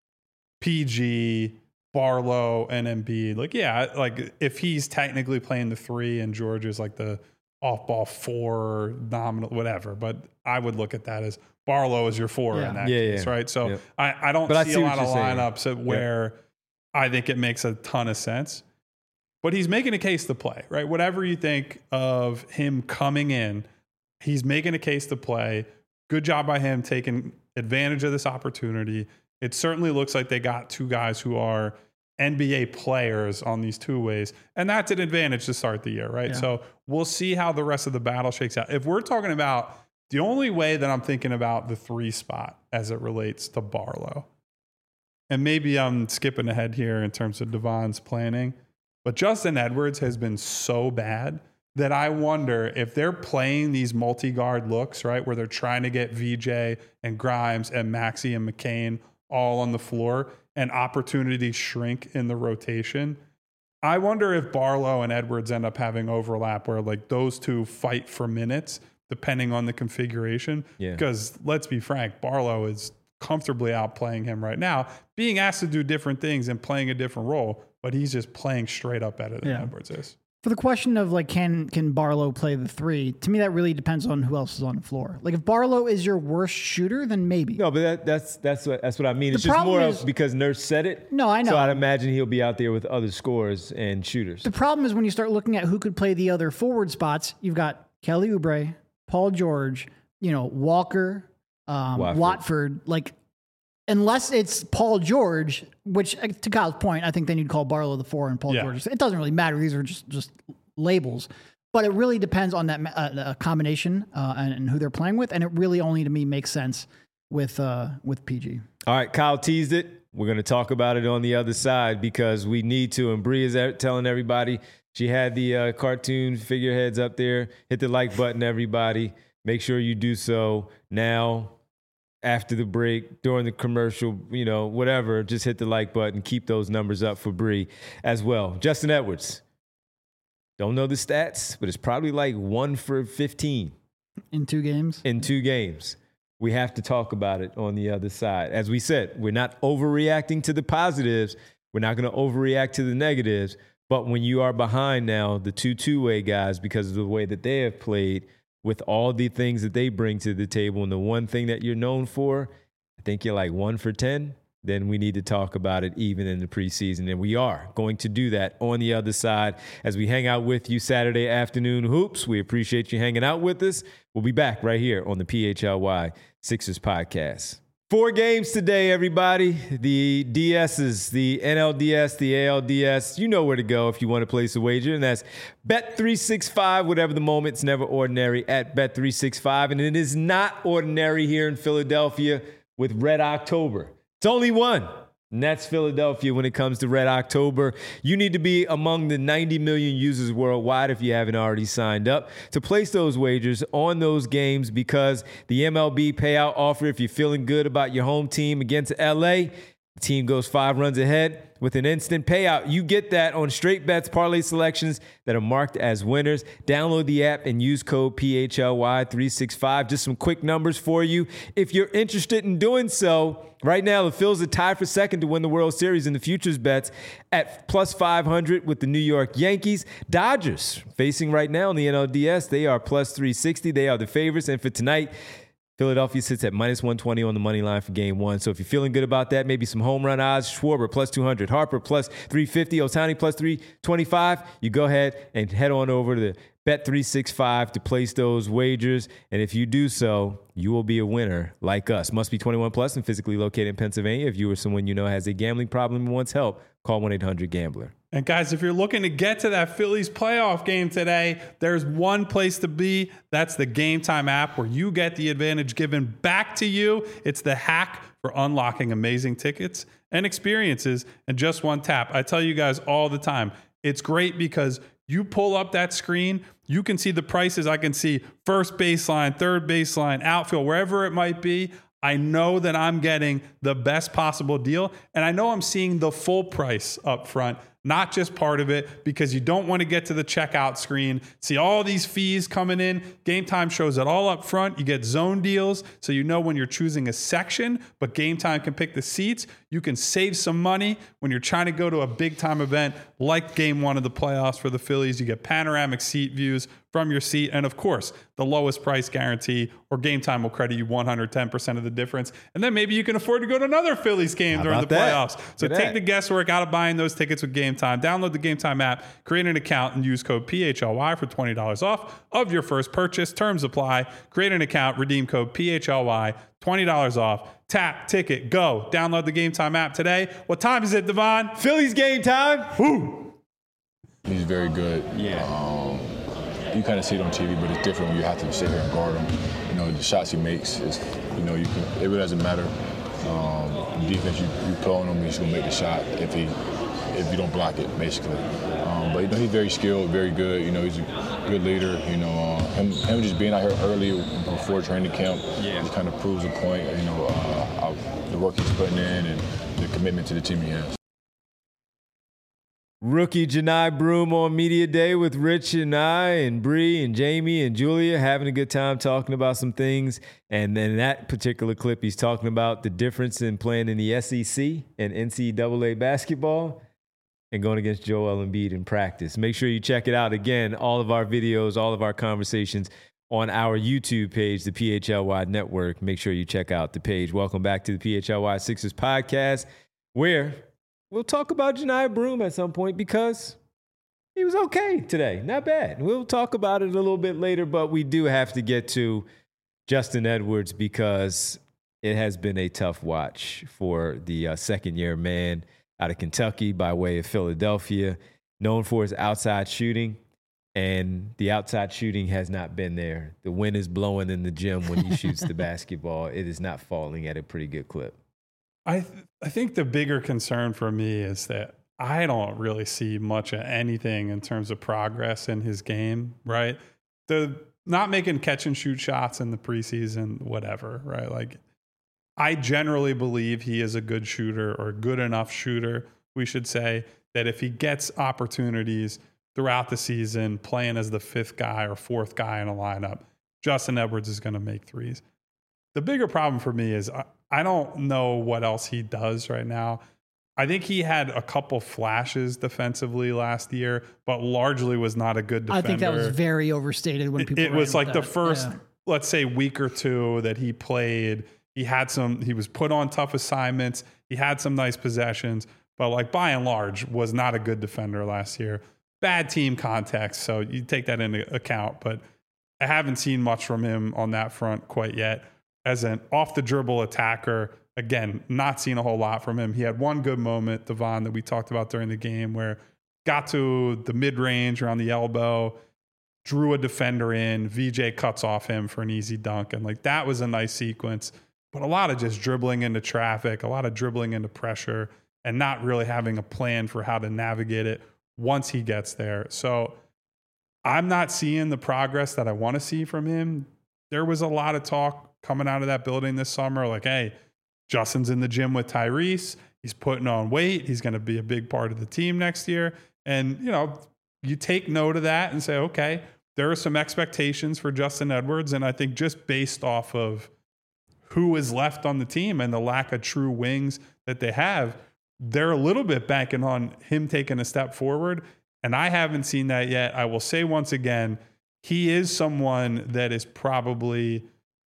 PG, Barlow, and Embiid, like if he's technically playing the 3 and George is like the off-ball 4, nominal, whatever. But I would look at that as Barlow is your 4 in that case, right? So I don't see a lot of lineups where I think it makes a ton of sense. But he's making a case to play, right? Whatever you think of him coming in, he's making a case to play. Good job by him taking advantage of this opportunity. It certainly looks like they got 2 guys who are NBA players on these 2 ways. And that's an advantage to start the year, right? Yeah. So we'll see how the rest of the battle shakes out. If we're talking about the only way that I'm thinking about the 3 spot as it relates to Barlow, and maybe I'm skipping ahead here in terms of Devon's planning, but Justin Edwards has been so bad that I wonder if they're playing these multi-guard looks, right, where they're trying to get VJ and Grimes and Maxey and McCain all on the floor and opportunities shrink in the rotation. I wonder if Barlow and Edwards end up having overlap where like those 2 fight for minutes depending on the configuration. Because let's be frank, Barlow is comfortably outplaying him right now, being asked to do different things and playing a different role, but he's just playing straight up better than Edwards is. For the question of like, can Barlow play the 3? To me, that really depends on who else is on the floor. Like if Barlow is your worst shooter, then maybe. No, but that's what I mean. It's just more of because Nurse said it. No, I know. So I'd imagine he'll be out there with other scorers and shooters. The problem is when you start looking at who could play the other forward spots, you've got Kelly Oubre, Paul George, Walker, Watford, like, unless it's Paul George, which to Kyle's point, I think then you'd call Barlow the 4 and Paul George. It doesn't really matter. These are just labels. But it really depends on that combination and who they're playing with. And it really only to me makes sense with PG. All right, Kyle teased it. We're going to talk about it on the other side because we need to. And Bree is telling everybody she had the cartoon figureheads up there. Hit the like button, everybody. Make sure you do so now, after the break, during the commercial, whatever. Just hit the like button. Keep those numbers up for Bree as well. Justin Edwards. Don't know the stats, but it's probably like 1 for 15. In 2 games? In 2 games. We have to talk about it on the other side. As we said, we're not overreacting to the positives. We're not going to overreact to the negatives. But when you are behind now, the two-way guys, because of the way that they have played, with all the things that they bring to the table, and the one thing that you're known for, I think you're like 1 for 10. Then we need to talk about it even in the preseason. And we are going to do that on the other side as we hang out with you Saturday afternoon hoops. We appreciate you hanging out with us. We'll be back right here on the PHLY Sixers podcast. 4 games today, everybody. The DSs, the NLDS, the ALDS. You know where to go if you want to place a wager, and that's Bet365. Whatever the moment, it's never ordinary at Bet365. And it is not ordinary here in Philadelphia with Red October. It's only one, and that's Philadelphia when it comes to Red October. You need to be among the 90 million users worldwide if you haven't already signed up to place those wagers on those games, because the MLB payout offer, if you're feeling good about your home team against LA, the team goes 5 runs ahead with an instant payout. You get that on straight bets, parlay selections that are marked as winners. Download the app and use code PHLY365. Just some quick numbers for you. If you're interested in doing so, right now the Phils are tied for second to win the World Series in the futures bets at plus 500 with the New York Yankees. Dodgers facing right now in the NLDS. They are plus 360. They are the favorites. And for tonight, Philadelphia sits at minus 120 on the money line for game 1. So if you're feeling good about that, maybe some home run odds, Schwarber plus 200, Harper plus 350, Ohtani plus 325, you go ahead and head on over to the Bet365 to place those wagers. And if you do so, you will be a winner like us. Must be 21 plus and physically located in Pennsylvania. If you or someone you know has a gambling problem and wants help, call 1-800-GAMBLER. And guys, if you're looking to get to that Phillies playoff game today, there's one place to be. That's the Game Time app, where you get the advantage given back to you. It's the hack for unlocking amazing tickets and experiences in just one tap. I tell you guys all the time, it's great because you pull up that screen, you can see the prices. I can see first baseline, third baseline, outfield, wherever it might be. I know that I'm getting the best possible deal, and I know I'm seeing the full price up front, not just part of it, because you don't want to get to the checkout screen, see all these fees coming in. Game Time shows it all up front. You get zone deals, so you know when you're choosing a section, but Game Time can pick the seats. You can save some money when you're trying to go to a big-time event like Game 1 of the playoffs for the Phillies. You get panoramic seat views from your seat, and of course, the lowest price guarantee, or Game Time will credit you 110% of the difference. And then maybe you can afford to go to another Phillies game during the playoffs. So take the guesswork out of buying those tickets with Game Time. Download the Game Time app, create an account, and use code PHLY for $20 off of your first purchase. Terms apply. Create an account, redeem code PHLY, $20 off. Tap, ticket, go. Download the Game Time app today. What time is it, Devon? Phillies game time. Woo! He's very good. Yeah. You kind of see it on TV, but it's different when you have to sit here and guard him. You know, the shots he makes is, you know, it really doesn't matter. Defense, you pull on him, he's gonna make the shot if you don't block it, basically. But you know, he's very skilled, very good. You know, he's a good leader. You know, him just being out here early before training camp, just kind of proves a point. You know, the work he's putting in and the commitment to the team he has. Rookie Johni Broome on Media Day with Rich and I and Bree and Jamie and Julia, having a good time talking about some things. And then that particular clip, he's talking about the difference in playing in the SEC and NCAA basketball and going against Joel Embiid in practice. Make sure you check it out. Again, all of our videos, all of our conversations on our YouTube page, the PHLY Network. Make sure you check out the page. Welcome back to the PHLY Sixers podcast, where we'll talk about Johni Broome at some point, because he was okay today. Not bad. We'll talk about it a little bit later, but we do have to get to Justin Edwards because it has been a tough watch for the second-year man out of Kentucky by way of Philadelphia, known for his outside shooting, and the outside shooting has not been there. The wind is blowing in the gym when he shoots the basketball. It is not falling at a pretty good clip. I think the bigger concern for me is that I don't really see much of anything in terms of progress in his game, right? The not making catch and shoot shots in the preseason, whatever, right? Like, I generally believe he is a good shooter, or a good enough shooter, we should say, that if he gets opportunities throughout the season playing as the fifth guy or fourth guy in a lineup, Justin Edwards is going to make threes. The bigger problem for me is I don't know what else he does right now. I think he had a couple flashes defensively last year, but largely was not a good defender. I think that was very overstated when people. It was like that. The first, let's say, week or two that he played. He was put on tough assignments. He had some nice possessions, but like by and large was not a good defender last year. Bad team context, so you take that into account. But I haven't seen much from him on that front quite yet. As an off the dribble attacker, again, not seen a whole lot from him. He had one good moment, Devon, that we talked about during the game, where got to the mid-range around the elbow, drew a defender in, VJ cuts off him for an easy dunk. And like that was a nice sequence, but a lot of just dribbling into traffic, a lot of dribbling into pressure, and not really having a plan for how to navigate it once he gets there. So I'm not seeing the progress that I want to see from him. There was a lot of talk coming out of that building this summer, like, hey, Justin's in the gym with Tyrese. He's putting on weight. He's going to be a big part of the team next year. And, you take note of that and say, okay, there are some expectations for Justin Edwards. And I think just based off of who is left on the team and the lack of true wings that they have, they're a little bit banking on him taking a step forward. And I haven't seen that yet. I will say once again, he is someone that is probably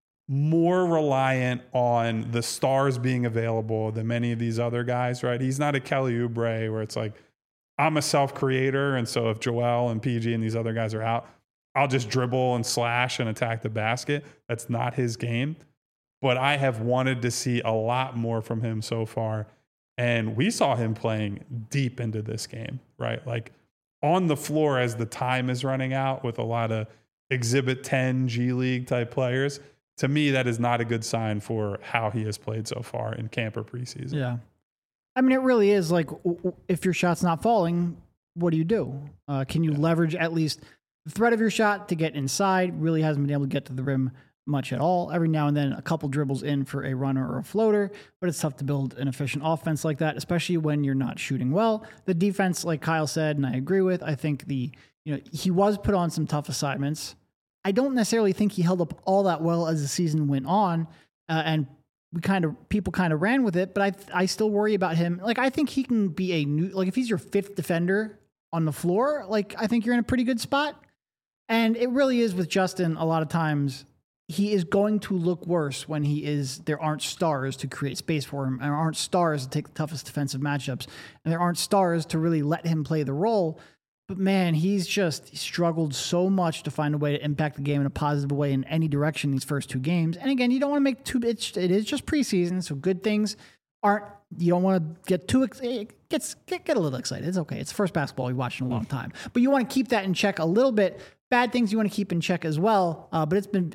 more reliant on the stars being available than many of these other guys, right? He's not a Kelly Oubre where it's like, I'm a self-creator, and so if Joel and PG and these other guys are out, I'll just dribble and slash and attack the basket. That's not his game. But I have wanted to see a lot more from him so far. And we saw him playing deep into this game, right? Like on the floor as the time is running out with a lot of Exhibit 10 G League type players. To me, that is not a good sign for how he has played so far in camp or preseason. Yeah. I mean, it really is like, if your shot's not falling, what do? Can you leverage at least the threat of your shot to get inside? Really hasn't been able to get to the rim much at all. Every now and then a couple dribbles in for a runner or a floater, but it's tough to build an efficient offense like that, especially when you're not shooting well. The defense, like Kyle said, and I agree with, I think he was put on some tough assignments. I don't necessarily think he held up all that well as the season went on, and people kind of ran with it. But I still worry about him. Like, I think he can be if he's your fifth defender on the floor, like I think you're in a pretty good spot. And it really is with Justin. A lot of times he is going to look worse when there aren't stars to create space for him, and there aren't stars to take the toughest defensive matchups, and there aren't stars to really let him play the role. But man, he's just struggled so much to find a way to impact the game in a positive way in any direction these first two games. And again, you don't want to make it is just preseason, so good things you don't want to get too get a little excited. It's okay. It's the first basketball we've watched in a long time. But you want to keep that in check a little bit. Bad things you want to keep in check as well. But it's been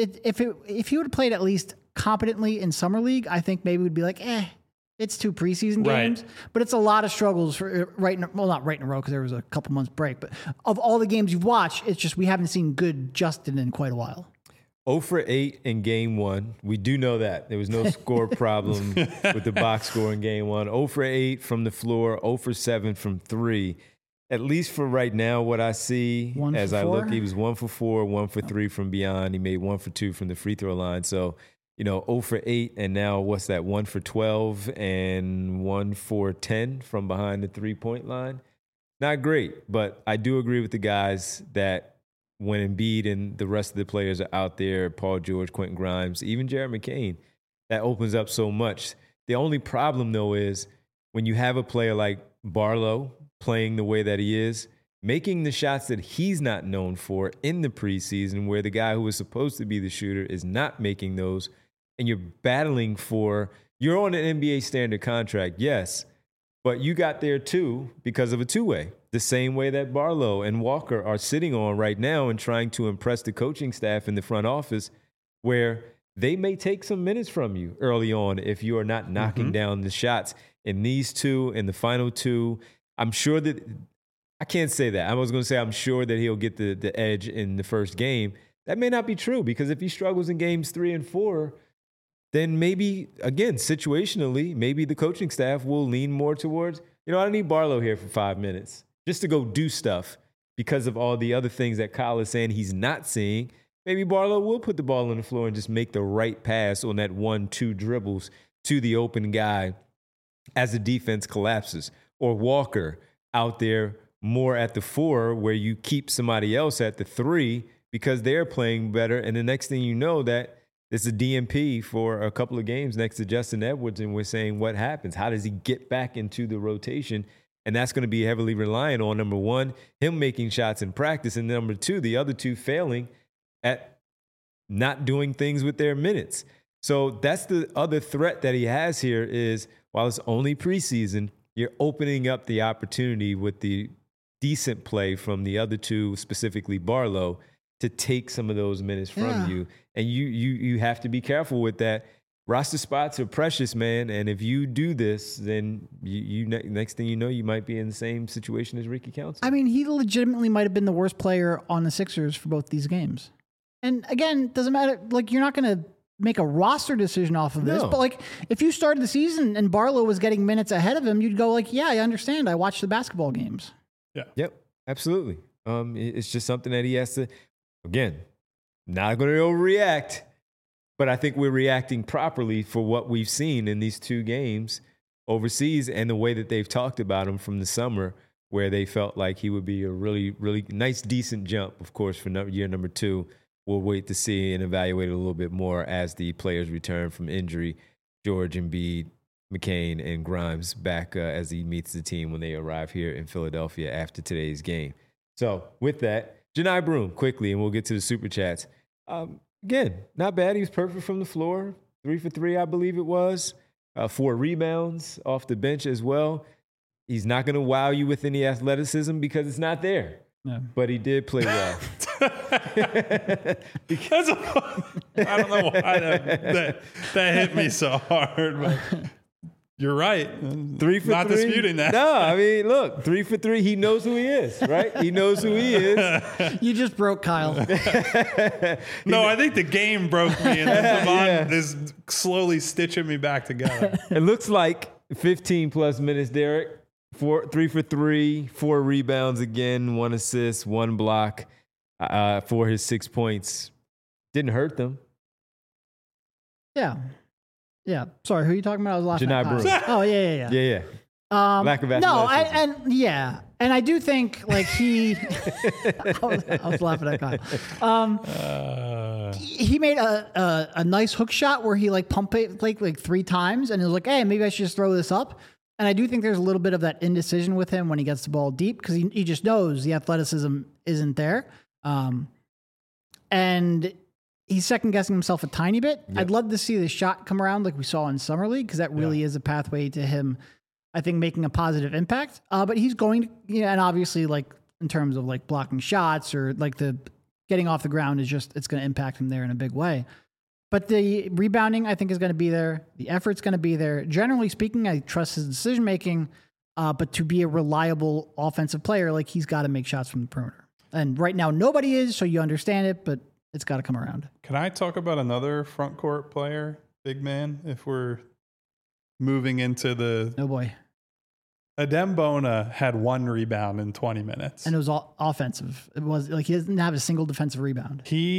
if he would have played at least competently in summer league, I think maybe we'd be like, it's two preseason games, right. But it's a lot of struggles for not right in a row because there was a couple months break. But of all the games you've watched, it's just we haven't seen good Justin in quite a while. 0 for 8 in game one. We do know that. There was no score problem with the box score in game one. 0 for 8 from the floor, 0 for 7 from 3. At least for right now, what I see as I look, he was 1 for 4, 1 for 3 from beyond. He made 1 for 2 from the free throw line. So, 0 for 8, and now what's that? 1 for 12 and 1 for 10 from behind the 3-point line. Not great, but I do agree with the guys that when Embiid and the rest of the players are out there, Paul George, Quentin Grimes, even Jared McCain, that opens up so much. The only problem, though, is when you have a player like Barlow playing the way that he is, making the shots that he's not known for in the preseason, where the guy who was supposed to be the shooter is not making those, and you're battling for, you're on an NBA standard contract, yes, but you got there too because of a two-way, the same way that Barlow and Walker are sitting on right now and trying to impress the coaching staff in the front office, where they may take some minutes from you early on if you are not knocking down the shots. In these two, in the final two, I'm sure that, I can't say that. I was going to say I'm sure that he'll get the edge in the first game. That may not be true, because if he struggles in games 3 and 4, then maybe, again, situationally, maybe the coaching staff will lean more towards, I don't need Barlow here for 5 minutes just to go do stuff because of all the other things that Kyle is saying he's not seeing. Maybe Barlow will put the ball on the floor and just make the right pass on that 1-2 dribbles to the open guy as the defense collapses. Or Walker out there more at the 4, where you keep somebody else at the 3 because they're playing better. And the next thing you know, that it's a DMP for a couple of games next to Justin Edwards, and we're saying, what happens? How does he get back into the rotation? And that's going to be heavily reliant on, number one, him making shots in practice, and number two, the other two failing at not doing things with their minutes. So that's the other threat that he has here is, while it's only preseason, you're opening up the opportunity with the decent play from the other two, specifically Barlow, to take some of those minutes from you. And you have to be careful with that. Roster spots are precious, man. And if you do this, then you next thing you know, you might be in the same situation as Ricky Council. I mean, he legitimately might have been the worst player on the Sixers for both these games. And again, doesn't matter. Like, you're not going to make a roster decision off of this. No. But like, if you started the season and Barlow was getting minutes ahead of him, you'd go like, yeah, I understand. I watched the basketball games. Yeah. Yep, absolutely. It's just something that he has to, again, not going to overreact, but I think we're reacting properly for what we've seen in these 2 games overseas and the way that they've talked about him from the summer, where they felt like he would be a really, really nice, decent jump, of course, for year number 2. We'll wait to see and evaluate it a little bit more as the players return from injury. George, Embiid, McCain, and Grimes back as he meets the team when they arrive here in Philadelphia after today's game. So with that, Janai Broom, quickly, and we'll get to the Super Chats. Again, not bad. He was perfect from the floor. 3 for 3, I believe it was. 4 rebounds off the bench as well. He's not going to wow you with any athleticism because it's not there. No. But he did play well. Because I don't know why that hit me so hard, but you're right. 3 for Not 3. disputing that. No, I mean, look, 3 for 3. He knows who he is, right? He knows who he is. You just broke Kyle. No, I think the game broke me, and then Devon is slowly stitching me back together. It looks like 15 plus minutes, Derek. 3 for 3, 4 rebounds again, 1 assist, 1 block for his 6 points. Didn't hurt them. Yeah. Yeah. Sorry, who are you talking about? I was laughing Janai at Broom. Kyle. Oh, yeah. Yeah. Lack of no, athleticism. and I do think like he, I was laughing at Kyle. He made a nice hook shot where he like pumped it like 3 times, and he was like, hey, maybe I should just throw this up. And I do think there's a little bit of that indecision with him when he gets the ball deep, because he just knows the athleticism isn't there. And he's second guessing himself a tiny bit. Yep. I'd love to see the shot come around like we saw in Summer League, because that really is a pathway to him, I think, making a positive impact. But he's going to, and obviously like in terms of like blocking shots or like the getting off the ground it's going to impact him there in a big way. But the rebounding, I think, is going to be there. The effort's going to be there. Generally speaking, I trust his decision-making, but to be a reliable offensive player, like, he's got to make shots from the perimeter. And right now, nobody is, so you understand it, but it's got to come around. Can I talk about another front court player, big man, if we're moving into the... Oh, boy. Adem Bona had 1 rebound in 20 minutes. And it was all offensive. It was like he doesn't have a single defensive rebound.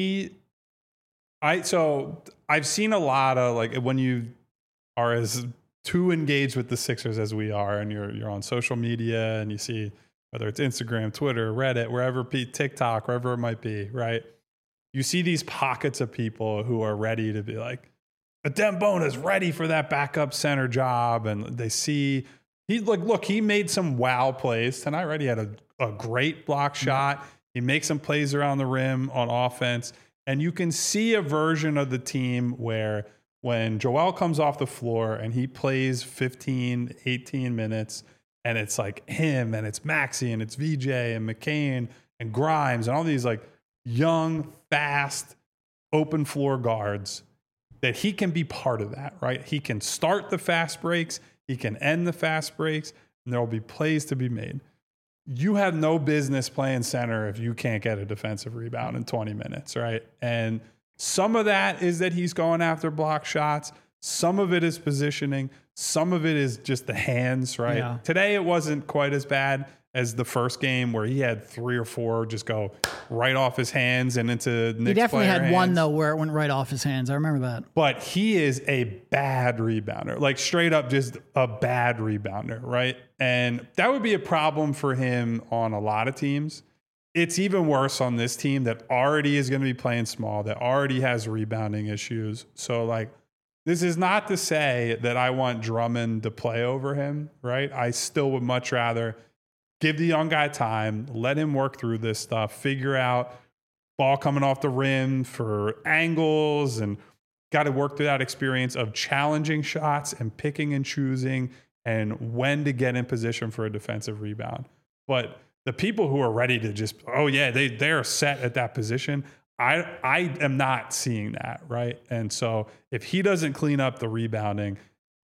So I've seen a lot of, like, when you are as too engaged with the Sixers as we are, and you're on social media and you see whether it's Instagram, Twitter, Reddit, wherever, TikTok, wherever it might be, right? You see these pockets of people who are ready to be like, Adem Bona is ready for that backup center job, and they see He made some wow plays tonight, right? He had a great block shot. He makes some plays around the rim on offense. And you can see a version of the team where when Joel comes off the floor and he plays 15, 18 minutes, and it's like him and it's Maxey and it's VJ and McCain and Grimes and all these like young, fast, open floor guards, that he can be part of that, right? He can start the fast breaks. He can end the fast breaks, and there will be plays to be made. You have no business playing center if you can't get a defensive rebound in 20 minutes, right? And some of that is that he's going after block shots. Some of it is positioning. Some of it is just the hands, right? Yeah. Today, it wasn't quite as bad as the first game where he had 3 or 4 just go right off his hands and into Knicks. He definitely player had one, hands. though, where it went right off his hands. I remember that. But he is a bad rebounder, like straight up just a bad rebounder, right? And that would be a problem for him on a lot of teams. It's even worse on this team that already is going to be playing small, that already has rebounding issues. So, like, this is not to say that I want Drummond to play over him, right? I still would much rather give the young guy time, let him work through this stuff, figure out ball coming off the rim for angles, and got to work through that experience of challenging shots and picking and choosing and when to get in position for a defensive rebound. But the people who are ready to just, they're set at that position, I am not seeing that, right? And so if he doesn't clean up the rebounding,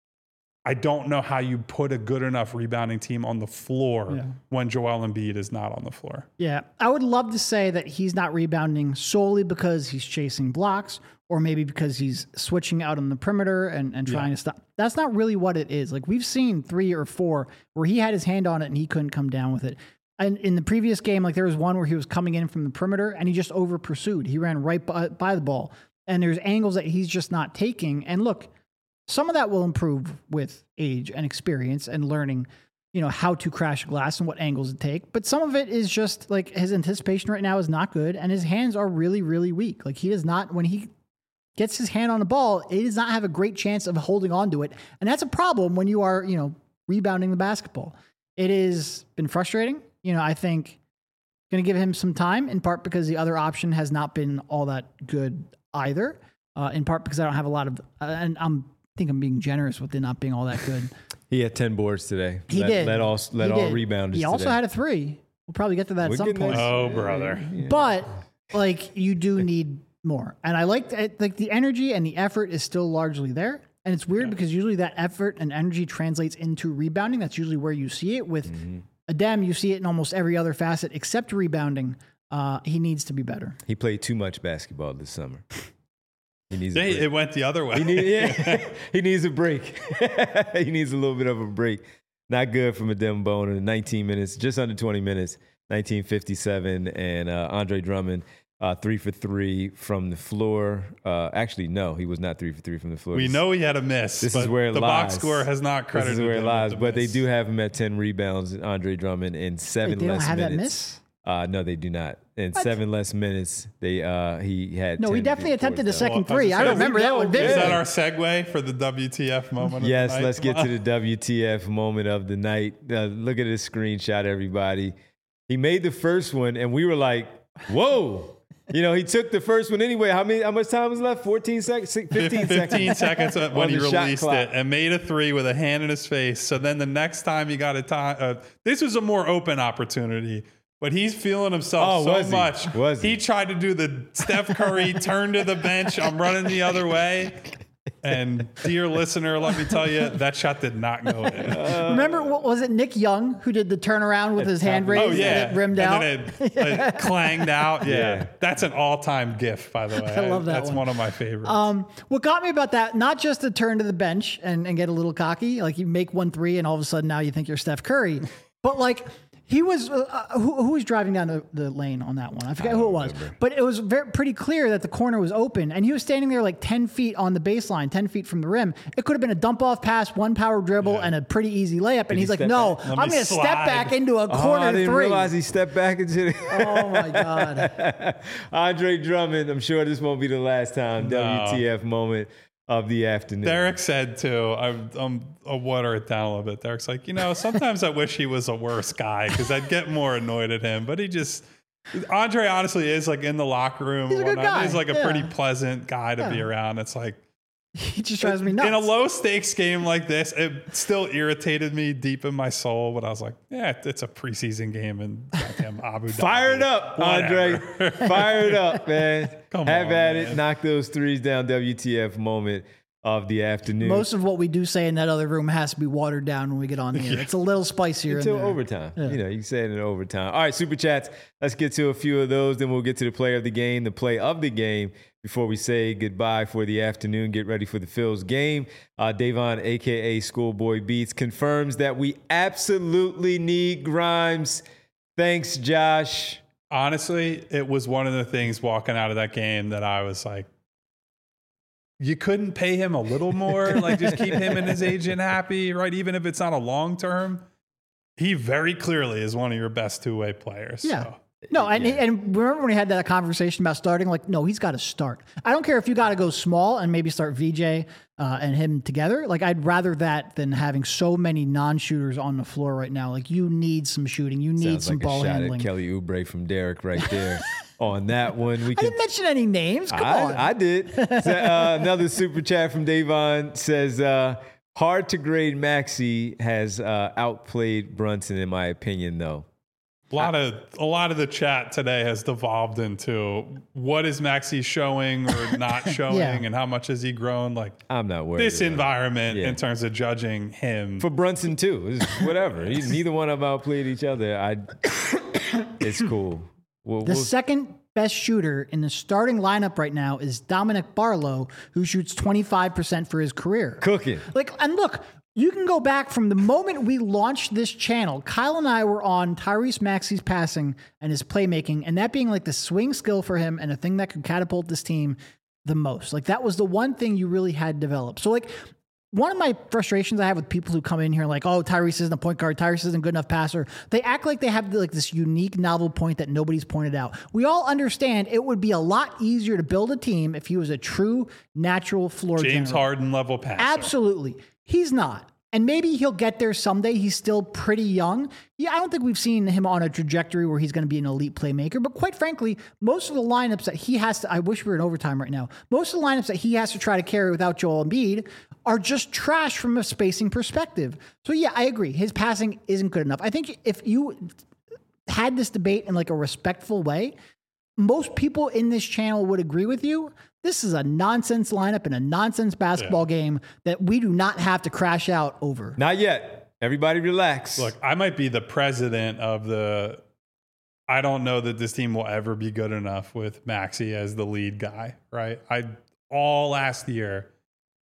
I don't know how you put a good enough rebounding team on the floor when Joel Embiid is not on the floor. Yeah, I would love to say that he's not rebounding solely because he's chasing blocks or maybe because he's switching out on the perimeter and trying to stop. That's not really what it is. Like, we've seen 3 or 4 where he had his hand on it and he couldn't come down with it. And in the previous game, like, there was one where he was coming in from the perimeter and he just over pursued. He ran right by the ball, and there's angles that he's just not taking. And look, some of that will improve with age and experience and learning, how to crash glass and what angles to take. But some of it is just like his anticipation right now is not good, and his hands are really, really weak. Like, he does not, when he gets his hand on the ball, it does not have a great chance of holding on to it. And that's a problem when you are, rebounding the basketball. It has been frustrating. I think going to give him some time, in part because the other option has not been all that good either. In part because I don't have a lot of, and I think I'm being generous with it not being all that good. He had 10 boards today. He did. Let all rebounders. He also had a 3. We'll probably get to that at some point. Oh, brother. Yeah. But like, you do need more. And I like the energy and the effort is still largely there. And it's weird because usually that effort and energy translates into rebounding. That's usually where you see it. With Adem, you see it in almost every other facet except rebounding. He needs to be better. He played too much basketball this summer. He needs it went the other way. He needs a break. He needs a little bit of a break. Not good from Adem Bona in 19 minutes, just under 20 minutes, 1957. And Andre Drummond, 3 for 3 from the floor. Actually, no, he was not 3 for 3 from the floor. We know he had a miss. This is where it the lies. Box score has not credited. This is where it lies. But they miss. do have him at 10 rebounds, Andre Drummond, in 7 Wait, they less don't have minutes. that miss? No, they do not. In What? 7 less minutes, he had. No, 10 he definitely attempted a before that. second Well, three. I remember that one Is vividly. that our segue for the WTF moment? Yes, of the night? let's get to the WTF moment of the night. Look at this screenshot, everybody. He made the first one, and we were like, whoa. He took the first one anyway. How much time was left? 14 seconds? 15 seconds when On he the shot released clock. it and made a 3 with a hand in his face. So then the next time he got a time, this was a more open opportunity. But he's feeling himself much. Was he? He tried to do the Steph Curry turn to the bench. I'm running the other way. And dear listener, let me tell you, that shot did not go in. Remember, what was it, Nick Young, who did the turnaround with his hand raised and it rimmed out? And then it clanged out. Yeah. Yeah. That's an all-time GIF, by the way. I love that That's one. one of my favorites. What got me about that, not just the turn to the bench and get a little cocky, like you make 1-3 and all of a sudden now you think you're Steph Curry, but like he was, who was driving down the lane on that one? I forget who it was, but it was pretty clear that the corner was open and he was standing there like 10 feet on the baseline, 10 feet from the rim. It could have been a dump off pass, one power dribble and a pretty easy layup. And he's like, no, I'm going to step back into a corner I didn't 3. realize he stepped back into the Oh my God. Andre Drummond. I'm sure this won't be the last time. No. WTF moment of the afternoon. Derek said too, I'll water it down a little bit. Derek's like, sometimes I wish he was a worse guy because I'd get more annoyed at him. But Andre honestly is like in the locker room. He's a good guy. He's like a pretty pleasant guy to be around. It's like, he just drives me nuts. In a low stakes game like this, it still irritated me deep in my soul. But I was like, yeah, it's a preseason game in goddamn Abu Dhabi. Fire it up, Andre. Fire it up, man. Come Have on, at man. it. Knock those threes down. WTF moment of the afternoon. Most of what we do say in that other room has to be watered down when we get on here. It's a little spicier until in there. overtime. You can say it in overtime. All right, super chats. Let's get to a few of those. Then we'll get to the player of the game, the play of the game. Before we say goodbye for the afternoon, get ready for the Phil's game. Davon, a.k.a. Schoolboy Beats, confirms that we absolutely need Grimes. Thanks, Josh. Honestly, it was one of the things walking out of that game that I was like, you couldn't pay him a little more? Like, just keep him and his agent happy, right? Even if it's not a long term. He very clearly is one of your best two-way players. Yeah. So. No, and remember when we had that conversation about starting? Like, no, he's got to start. I don't care if you got to go small and maybe start VJ and him together. Like, I'd rather that than having so many non-shooters on the floor right now. Like, you need some shooting. You need Sounds some like ball a shot handling. at Kelly Oubre from Derek right there. On that one, we I didn't mention any names. Come on. I did. So, another super chat from Davon says, hard to grade Maxey has outplayed Brunson, in my opinion, though. A lot of the chat today has devolved into what is Maxey showing or not showing, and how much has he grown? Like, I'm not worried. This environment in terms of judging him for Brunson too. It's whatever. Neither one of them outplayed each other. It's cool. The second best shooter in the starting lineup right now is Dominic Barlow, who shoots 25% for his career. Cooking. And look, you can go back from the moment we launched this channel. Kyle and I were on Tyrese Maxey's passing and his playmaking, and that being like the swing skill for him and a thing that could catapult this team the most. Like, that was the one thing you really had developed. So, like, one of my frustrations I have with people who come in here like, oh, Tyrese isn't a point guard, Tyrese isn't a good enough passer. They act like they have like this unique, novel point that nobody's pointed out. We all understand it would be a lot easier to build a team if he was a true, natural floor general. James Harden level passer. Absolutely. He's not. And maybe he'll get there someday. He's still pretty young. Yeah, I don't think we've seen him on a trajectory where he's going to be an elite playmaker. But quite frankly, most of the lineups that he has to, I wish we were in overtime right now. Most of the lineups that he has to try to carry without Joel Embiid are just trash from a spacing perspective. So yeah, I agree. His passing isn't good enough. I think if you had this debate in like a respectful way, most people in this channel would agree with you. This is a nonsense lineup in a nonsense basketball game that we do not have to crash out over. Not yet. Everybody relax. Look, I might be the president of the... I don't know that this team will ever be good enough with Maxey as the lead guy, right? All last year,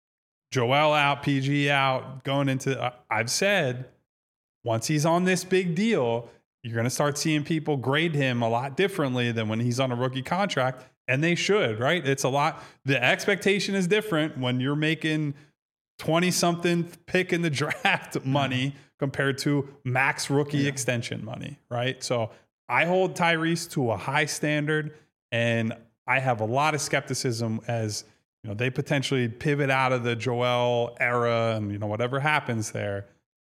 Joel out, PG out, going into... I've said, once he's on this big deal, you're going to start seeing people grade him a lot differently than when he's on a rookie contract. And they should, right? It's a lot. The expectation is different when you're making 20-something pick in the draft money compared to max rookie extension money, right? So I hold Tyrese to a high standard, and I have a lot of skepticism as they potentially pivot out of the Joel era and whatever happens there.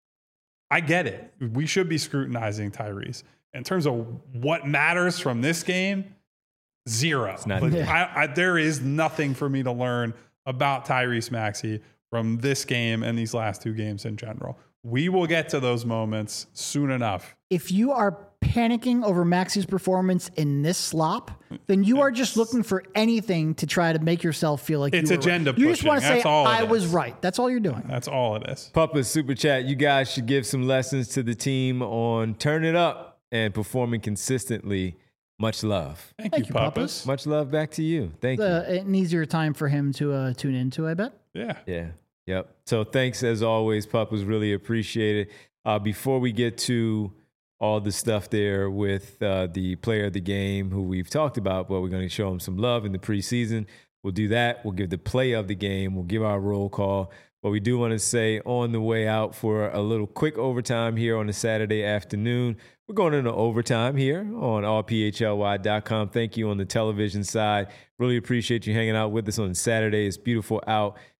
I get it. We should be scrutinizing Tyrese. In terms of what matters from this game, zero. There is nothing for me to learn about Tyrese Maxey from this game and these last two games in general. We will get to those moments soon enough. If you are panicking over Maxey's performance in this slop, then you are just looking for anything to try to make yourself feel like it's agenda right. You just want to say, I was right. That's all you're doing. That's all it is. Puppa's super chat. You guys should give some lessons to the team on turn it up and performing consistently. Much love. Thank you, Puppas. Much love back to you. Thank you. An easier time for him to tune into, I bet. Yeah. Yep. So thanks as always, Puppas. Really appreciate it. Before we get to all the stuff there with the player of the game who we've talked about, but we're going to show him some love in the preseason. We'll do that. We'll give the play of the game. We'll give our roll call. But we do want to say on the way out for a little quick overtime here on a Saturday afternoon. We're going into overtime here on allphly.com. Thank you on the television side. Really appreciate you hanging out with us on Saturday. It's beautiful out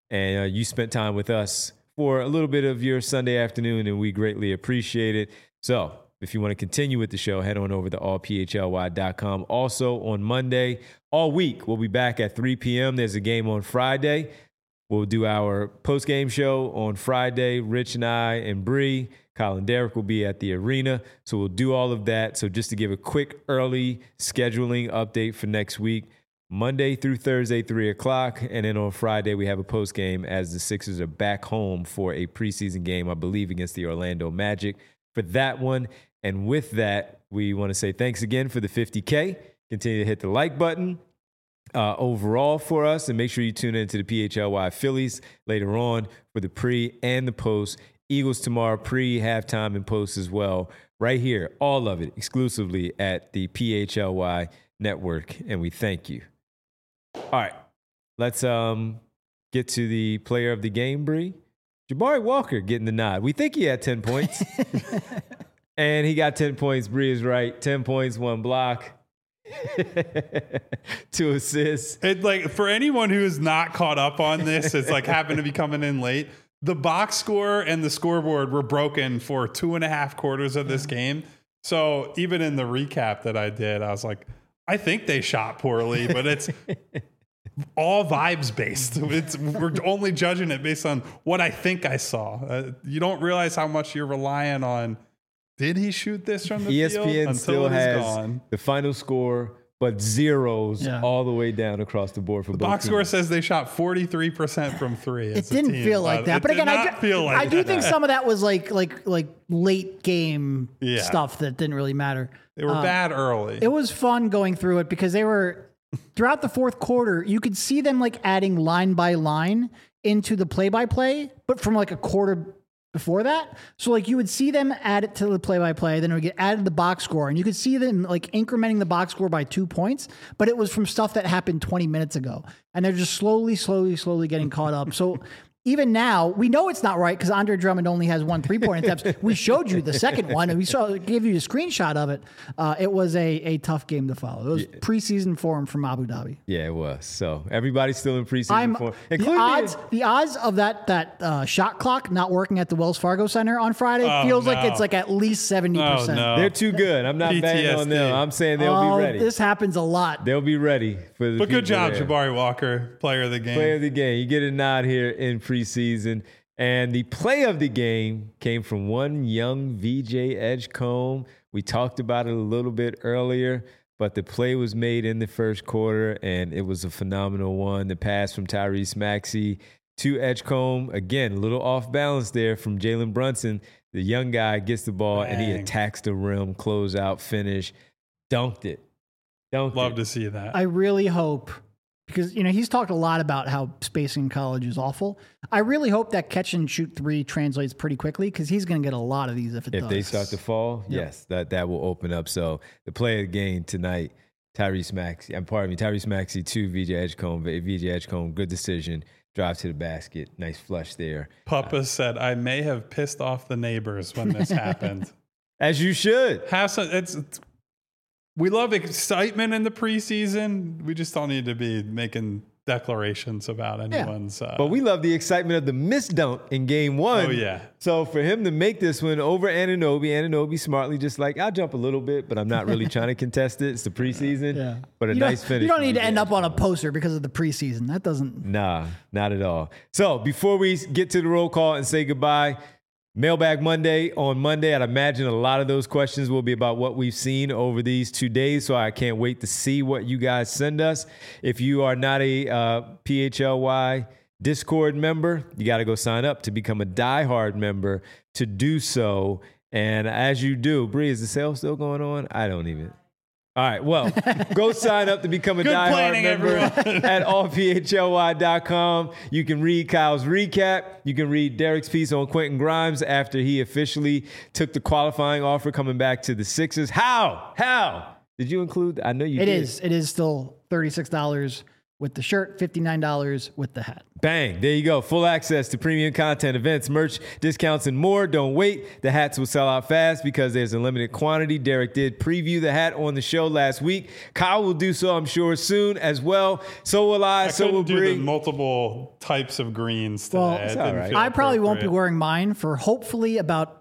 and you spent time with us for a little bit of your Sunday afternoon, and we greatly appreciate it. So if you want to continue with the show, head on over to allphly.com. Also on Monday, all week, we'll be back at 3 p.m. There's a game on Friday. We'll do our post-game show on Friday. Rich and I and Bree, Kyle and Derek will be at the arena. So we'll do all of that. So just to give a quick early scheduling update for next week, Monday through Thursday, 3 o'clock. And then on Friday, we have a post-game as the Sixers are back home for a preseason game, I believe, against the Orlando Magic for that one. And with that, we want to say thanks again for the 50K. Continue to hit the like button overall for us, and make sure you tune into the PHLY Phillies later on for the pre and the post. Eagles tomorrow, pre, halftime, and post as well. Right here, all of it exclusively at the PHLY Network, and we thank you. All right, let's get to the player of the game, Bree. Jabari Walker getting the nod. We think he had 10 points. And he got 10 points. Bree is right. 10 points, 1 block, 2 assists. It, like, for anyone who is not caught up on this, it's like happened to be coming in late. The box score and the scoreboard were broken for 2.5 quarters of this game. So even in the recap that I did, I was like, I think they shot poorly, but it's all vibes based. We're only judging it based on what I think I saw. You don't realize how much you're relying on. Did he shoot this from the field? ESPN still has the final score, but zeros all the way down across the board for both box teams. score says they shot 43% from 3. It didn't feel like that. But again, I do think some of that was like late game stuff that didn't really matter. They were bad early. It was fun going through it because they were throughout the fourth quarter. You could see them like adding line by line into the play-by-play, but from like a quarter before that. So like you would see them add it to the play-by-play, then it would get added to the box score, and you could see them like incrementing the box score by 2 points, but it was from stuff that happened 20 minutes ago. And they're just slowly getting caught up. So even now, we know it's not right because Andre Drummond only has 1 3-point attempt. We showed you the second one, and gave you a screenshot of it. It was a tough game to follow. It was preseason form from Abu Dhabi. Yeah, it was. So everybody's still in preseason form. The odds of that shot clock not working at the Wells Fargo Center on Friday feels like it's like at least 70%. No. They're too good. I'm not betting on them. I'm saying they'll be ready. This happens a lot. They'll be ready for the. But good job, there. Jabari Walker, player of the game. Player of the game. You get a nod here in preseason. And the play of the game came from one young VJ Edgecombe. We talked about it a little bit earlier, but the play was made in the first quarter, and it was a phenomenal one. The pass from Tyrese Maxey to Edgecombe. Again, a little off balance there from Jalen Brunson. The young guy gets the ball, and he attacks the rim, closeout, finish, dunked it. Love to see that. I really hope, because he's talked a lot about how spacing in college is awful. I really hope that catch and shoot 3 translates pretty quickly, because he's going to get a lot of these if it does. If they start to fall, yes, that will open up. So the play of the game tonight, Tyrese Maxey to VJ Edgecombe. VJ Edgecombe, good decision. Drive to the basket. Nice flush there. Papa said, I may have pissed off the neighbors when this happened. As you should. We love excitement in the preseason. We just don't need to be making declarations about anyone's. But we love the excitement of the missed dunk in game 1. Oh, yeah. So for him to make this one over Anunoby smartly just like, I'll jump a little bit, but I'm not really trying to contest it. It's the preseason. Yeah. But nice finish. You don't need to end up on a poster because of the preseason. That doesn't. Nah, not at all. So before we get to the roll call and say goodbye, Mailbag Monday on Monday. I'd imagine a lot of those questions will be about what we've seen over these 2 days. So I can't wait to see what you guys send us. If you are not a PHLY Discord member, you got to go sign up to become a diehard member to do so. And as you do, Bree, is the sale still going on? I don't even. All right, well, go sign up to become a diehard member at allphly.com. You can read Kyle's recap. You can read Derek's piece on Quentin Grimes after he officially took the qualifying offer coming back to the Sixers. How? Did you include? I know you did. It is still $36 with the shirt, $59 with the hat. Bang. There you go. Full access to premium content, events, merch, discounts, and more. Don't wait. The hats will sell out fast because there's a limited quantity. Derek did preview the hat on the show last week. Kyle will do so, I'm sure, soon as well. So will I. So will do Bree. the multiple types of greens today. Well, It didn't all right. feel I probably won't be appropriate. wearing mine for hopefully about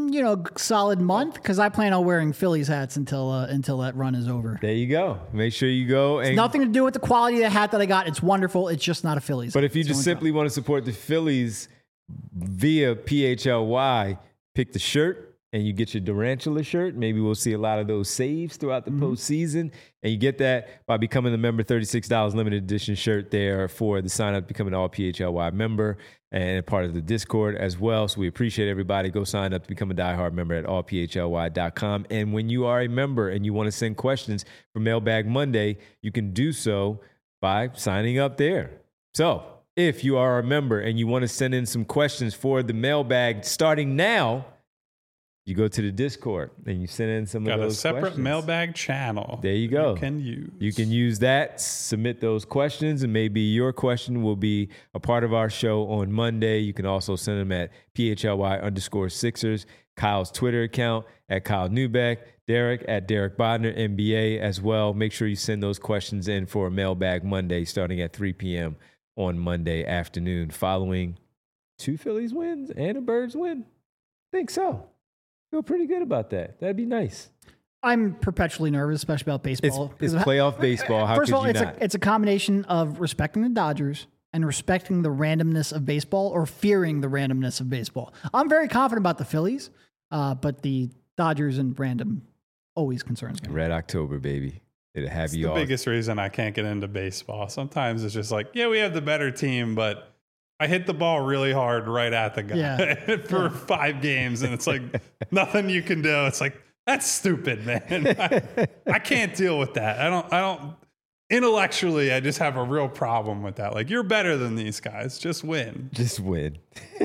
solid month, because I plan on wearing Phillies hats until that run is over. There you go. Make sure you go. And Nothing to do with the quality of the hat that I got. It's wonderful. It's just not a Phillies. But if you It's just the only simply want to support the Phillies via PHLY, pick the shirt and you get your Durantula shirt. Maybe we'll see a lot of those saves throughout the postseason. And you get that by becoming a member, $36 limited edition shirt there for the sign up to become an all PHLY member and part of the Discord as well. So we appreciate everybody. Go sign up to become a diehard member at allphly.com. And when you are a member and you want to send questions for Mailbag Monday, you can do so by signing up there. So if you are a member and you want to send in some questions for the mailbag starting now, you go to the Discord and you send in some of Got those a separate questions. mailbag channel. There you go. You can use that, submit those questions, and maybe your question will be a part of our show on Monday. You can also send them at PHLY_Sixers, Kyle's Twitter account at Kyle Neubeck, Derek at Derek Bodner, NBA as well. Make sure you send those questions in for a Mailbag Monday starting at 3 p.m. on Monday afternoon following 2 Phillies wins and a Birds win. I think so. Feel pretty good about that. That'd be nice. I'm perpetually nervous, especially about baseball. It's playoff baseball. How First could of all, you not? it's a combination of respecting the Dodgers and respecting the randomness of baseball, or fearing the randomness of baseball. I'm very confident about the Phillies, but the Dodgers and random always concerns me. Red October, baby. It'll have It's you the all. biggest reason I can't get into baseball. Sometimes it's just like, yeah, we have the better team, but I hit the ball really hard right at the guy for 5 games, and it's like nothing you can do. It's like, that's stupid, man. I can't deal with that. I don't. Intellectually, I just have a real problem with that. Like, you're better than these guys. Just win. Just win.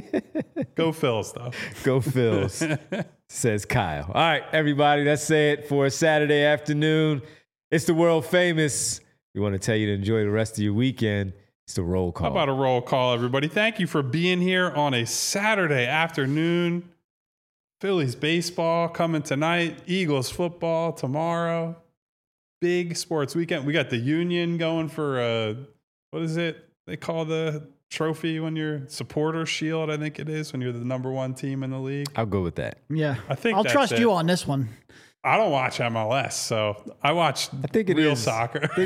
Go Phils, though. Go Phils, says Kyle. All right, everybody, let's say it for a Saturday afternoon. It's the world famous. We want to tell you to enjoy the rest of your weekend. It's the roll call. How about a roll call, everybody? Thank you for being here on a Saturday afternoon. Phillies baseball coming tonight. Eagles football tomorrow. Big sports weekend. We got the Union going for what is it they call the trophy when you're supporter shield? I think it is, when you're the number 1 team in the league. I'll go with that. Yeah, I think I'll that's trust it. you on this one. I don't watch MLS, so I watch think it real is. soccer. Oh,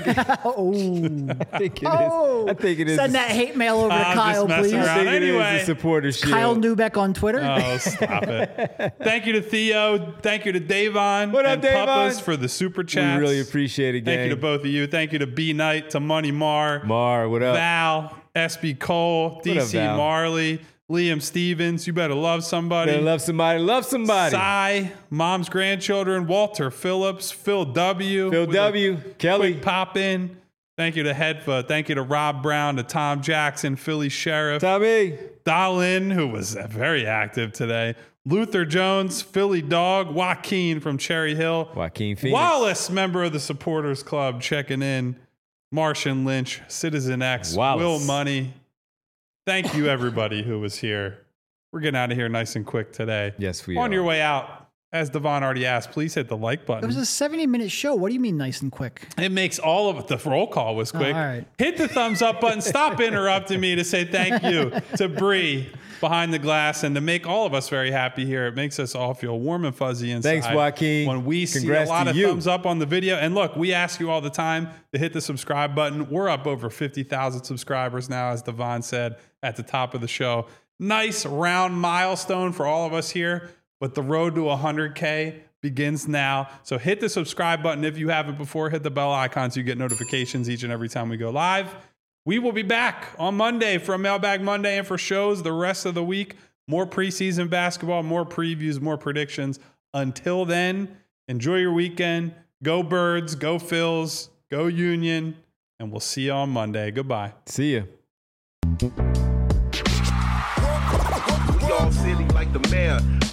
I think it is. I think it is. Send that hate mail over to I'm just Kyle, messing please. around. I think it is Anyway. the supporter shield. Kyle Neubeck on Twitter. Oh, stop it. Thank you to Theo. Thank you to Davon What up, and Davon? Puppas for the super We chats. really appreciate it, gang. Thank you to both of you. Thank you to B Knight, to Money Mar, Mar, what up? Val, SB Cole, up, DC Val? Marley, Liam Stevens. You better love somebody. Better love somebody. Love somebody. Cy, Mom's Grandchildren, Walter Phillips, Phil W. Phil with a W. Kelly. Quick pop in. Thank you to Hedfa. Thank you to Rob Brown, to Tom Jackson, Philly Sheriff, Tommy. Dahlin, who was very active today, Luther Jones, Philly Dog, Joaquin from Cherry Hill, Joaquin Phoenix. Wallace, member of the Supporters Club, checking in, Martian Lynch, Citizen X, Wallace. Will Money. Thank you, everybody who was here. We're getting out of here nice and quick today. Yes, we On are. your way out, as Devon already asked, please hit the like It button. was a 70-minute show. What do you mean nice and quick? It makes all of it. The roll call was quick. all right. Hit the thumbs up button. Stop interrupting me to say thank you to Bree behind the glass, and to make all of us very happy here. It makes us all feel warm and fuzzy inside. Thanks, Joaquin. When we see Congrats a lot to of you. thumbs up on the video. And look, we ask you all the time to hit the subscribe button. We're up over 50,000 subscribers now, as Devon said at the top of the show. Nice round milestone for all of us here, but the road to 100K begins now. So hit the subscribe button if you haven't before. Hit the bell icon so you get notifications each and every time we go live. We will be back on Monday for a Mailbag Monday and for shows the rest of the week. More preseason basketball, more previews, more predictions. Until then, enjoy your weekend. Go Birds, go Phils, go Union, and we'll see you on Monday. Goodbye. See ya. Y'all silly like the mayor.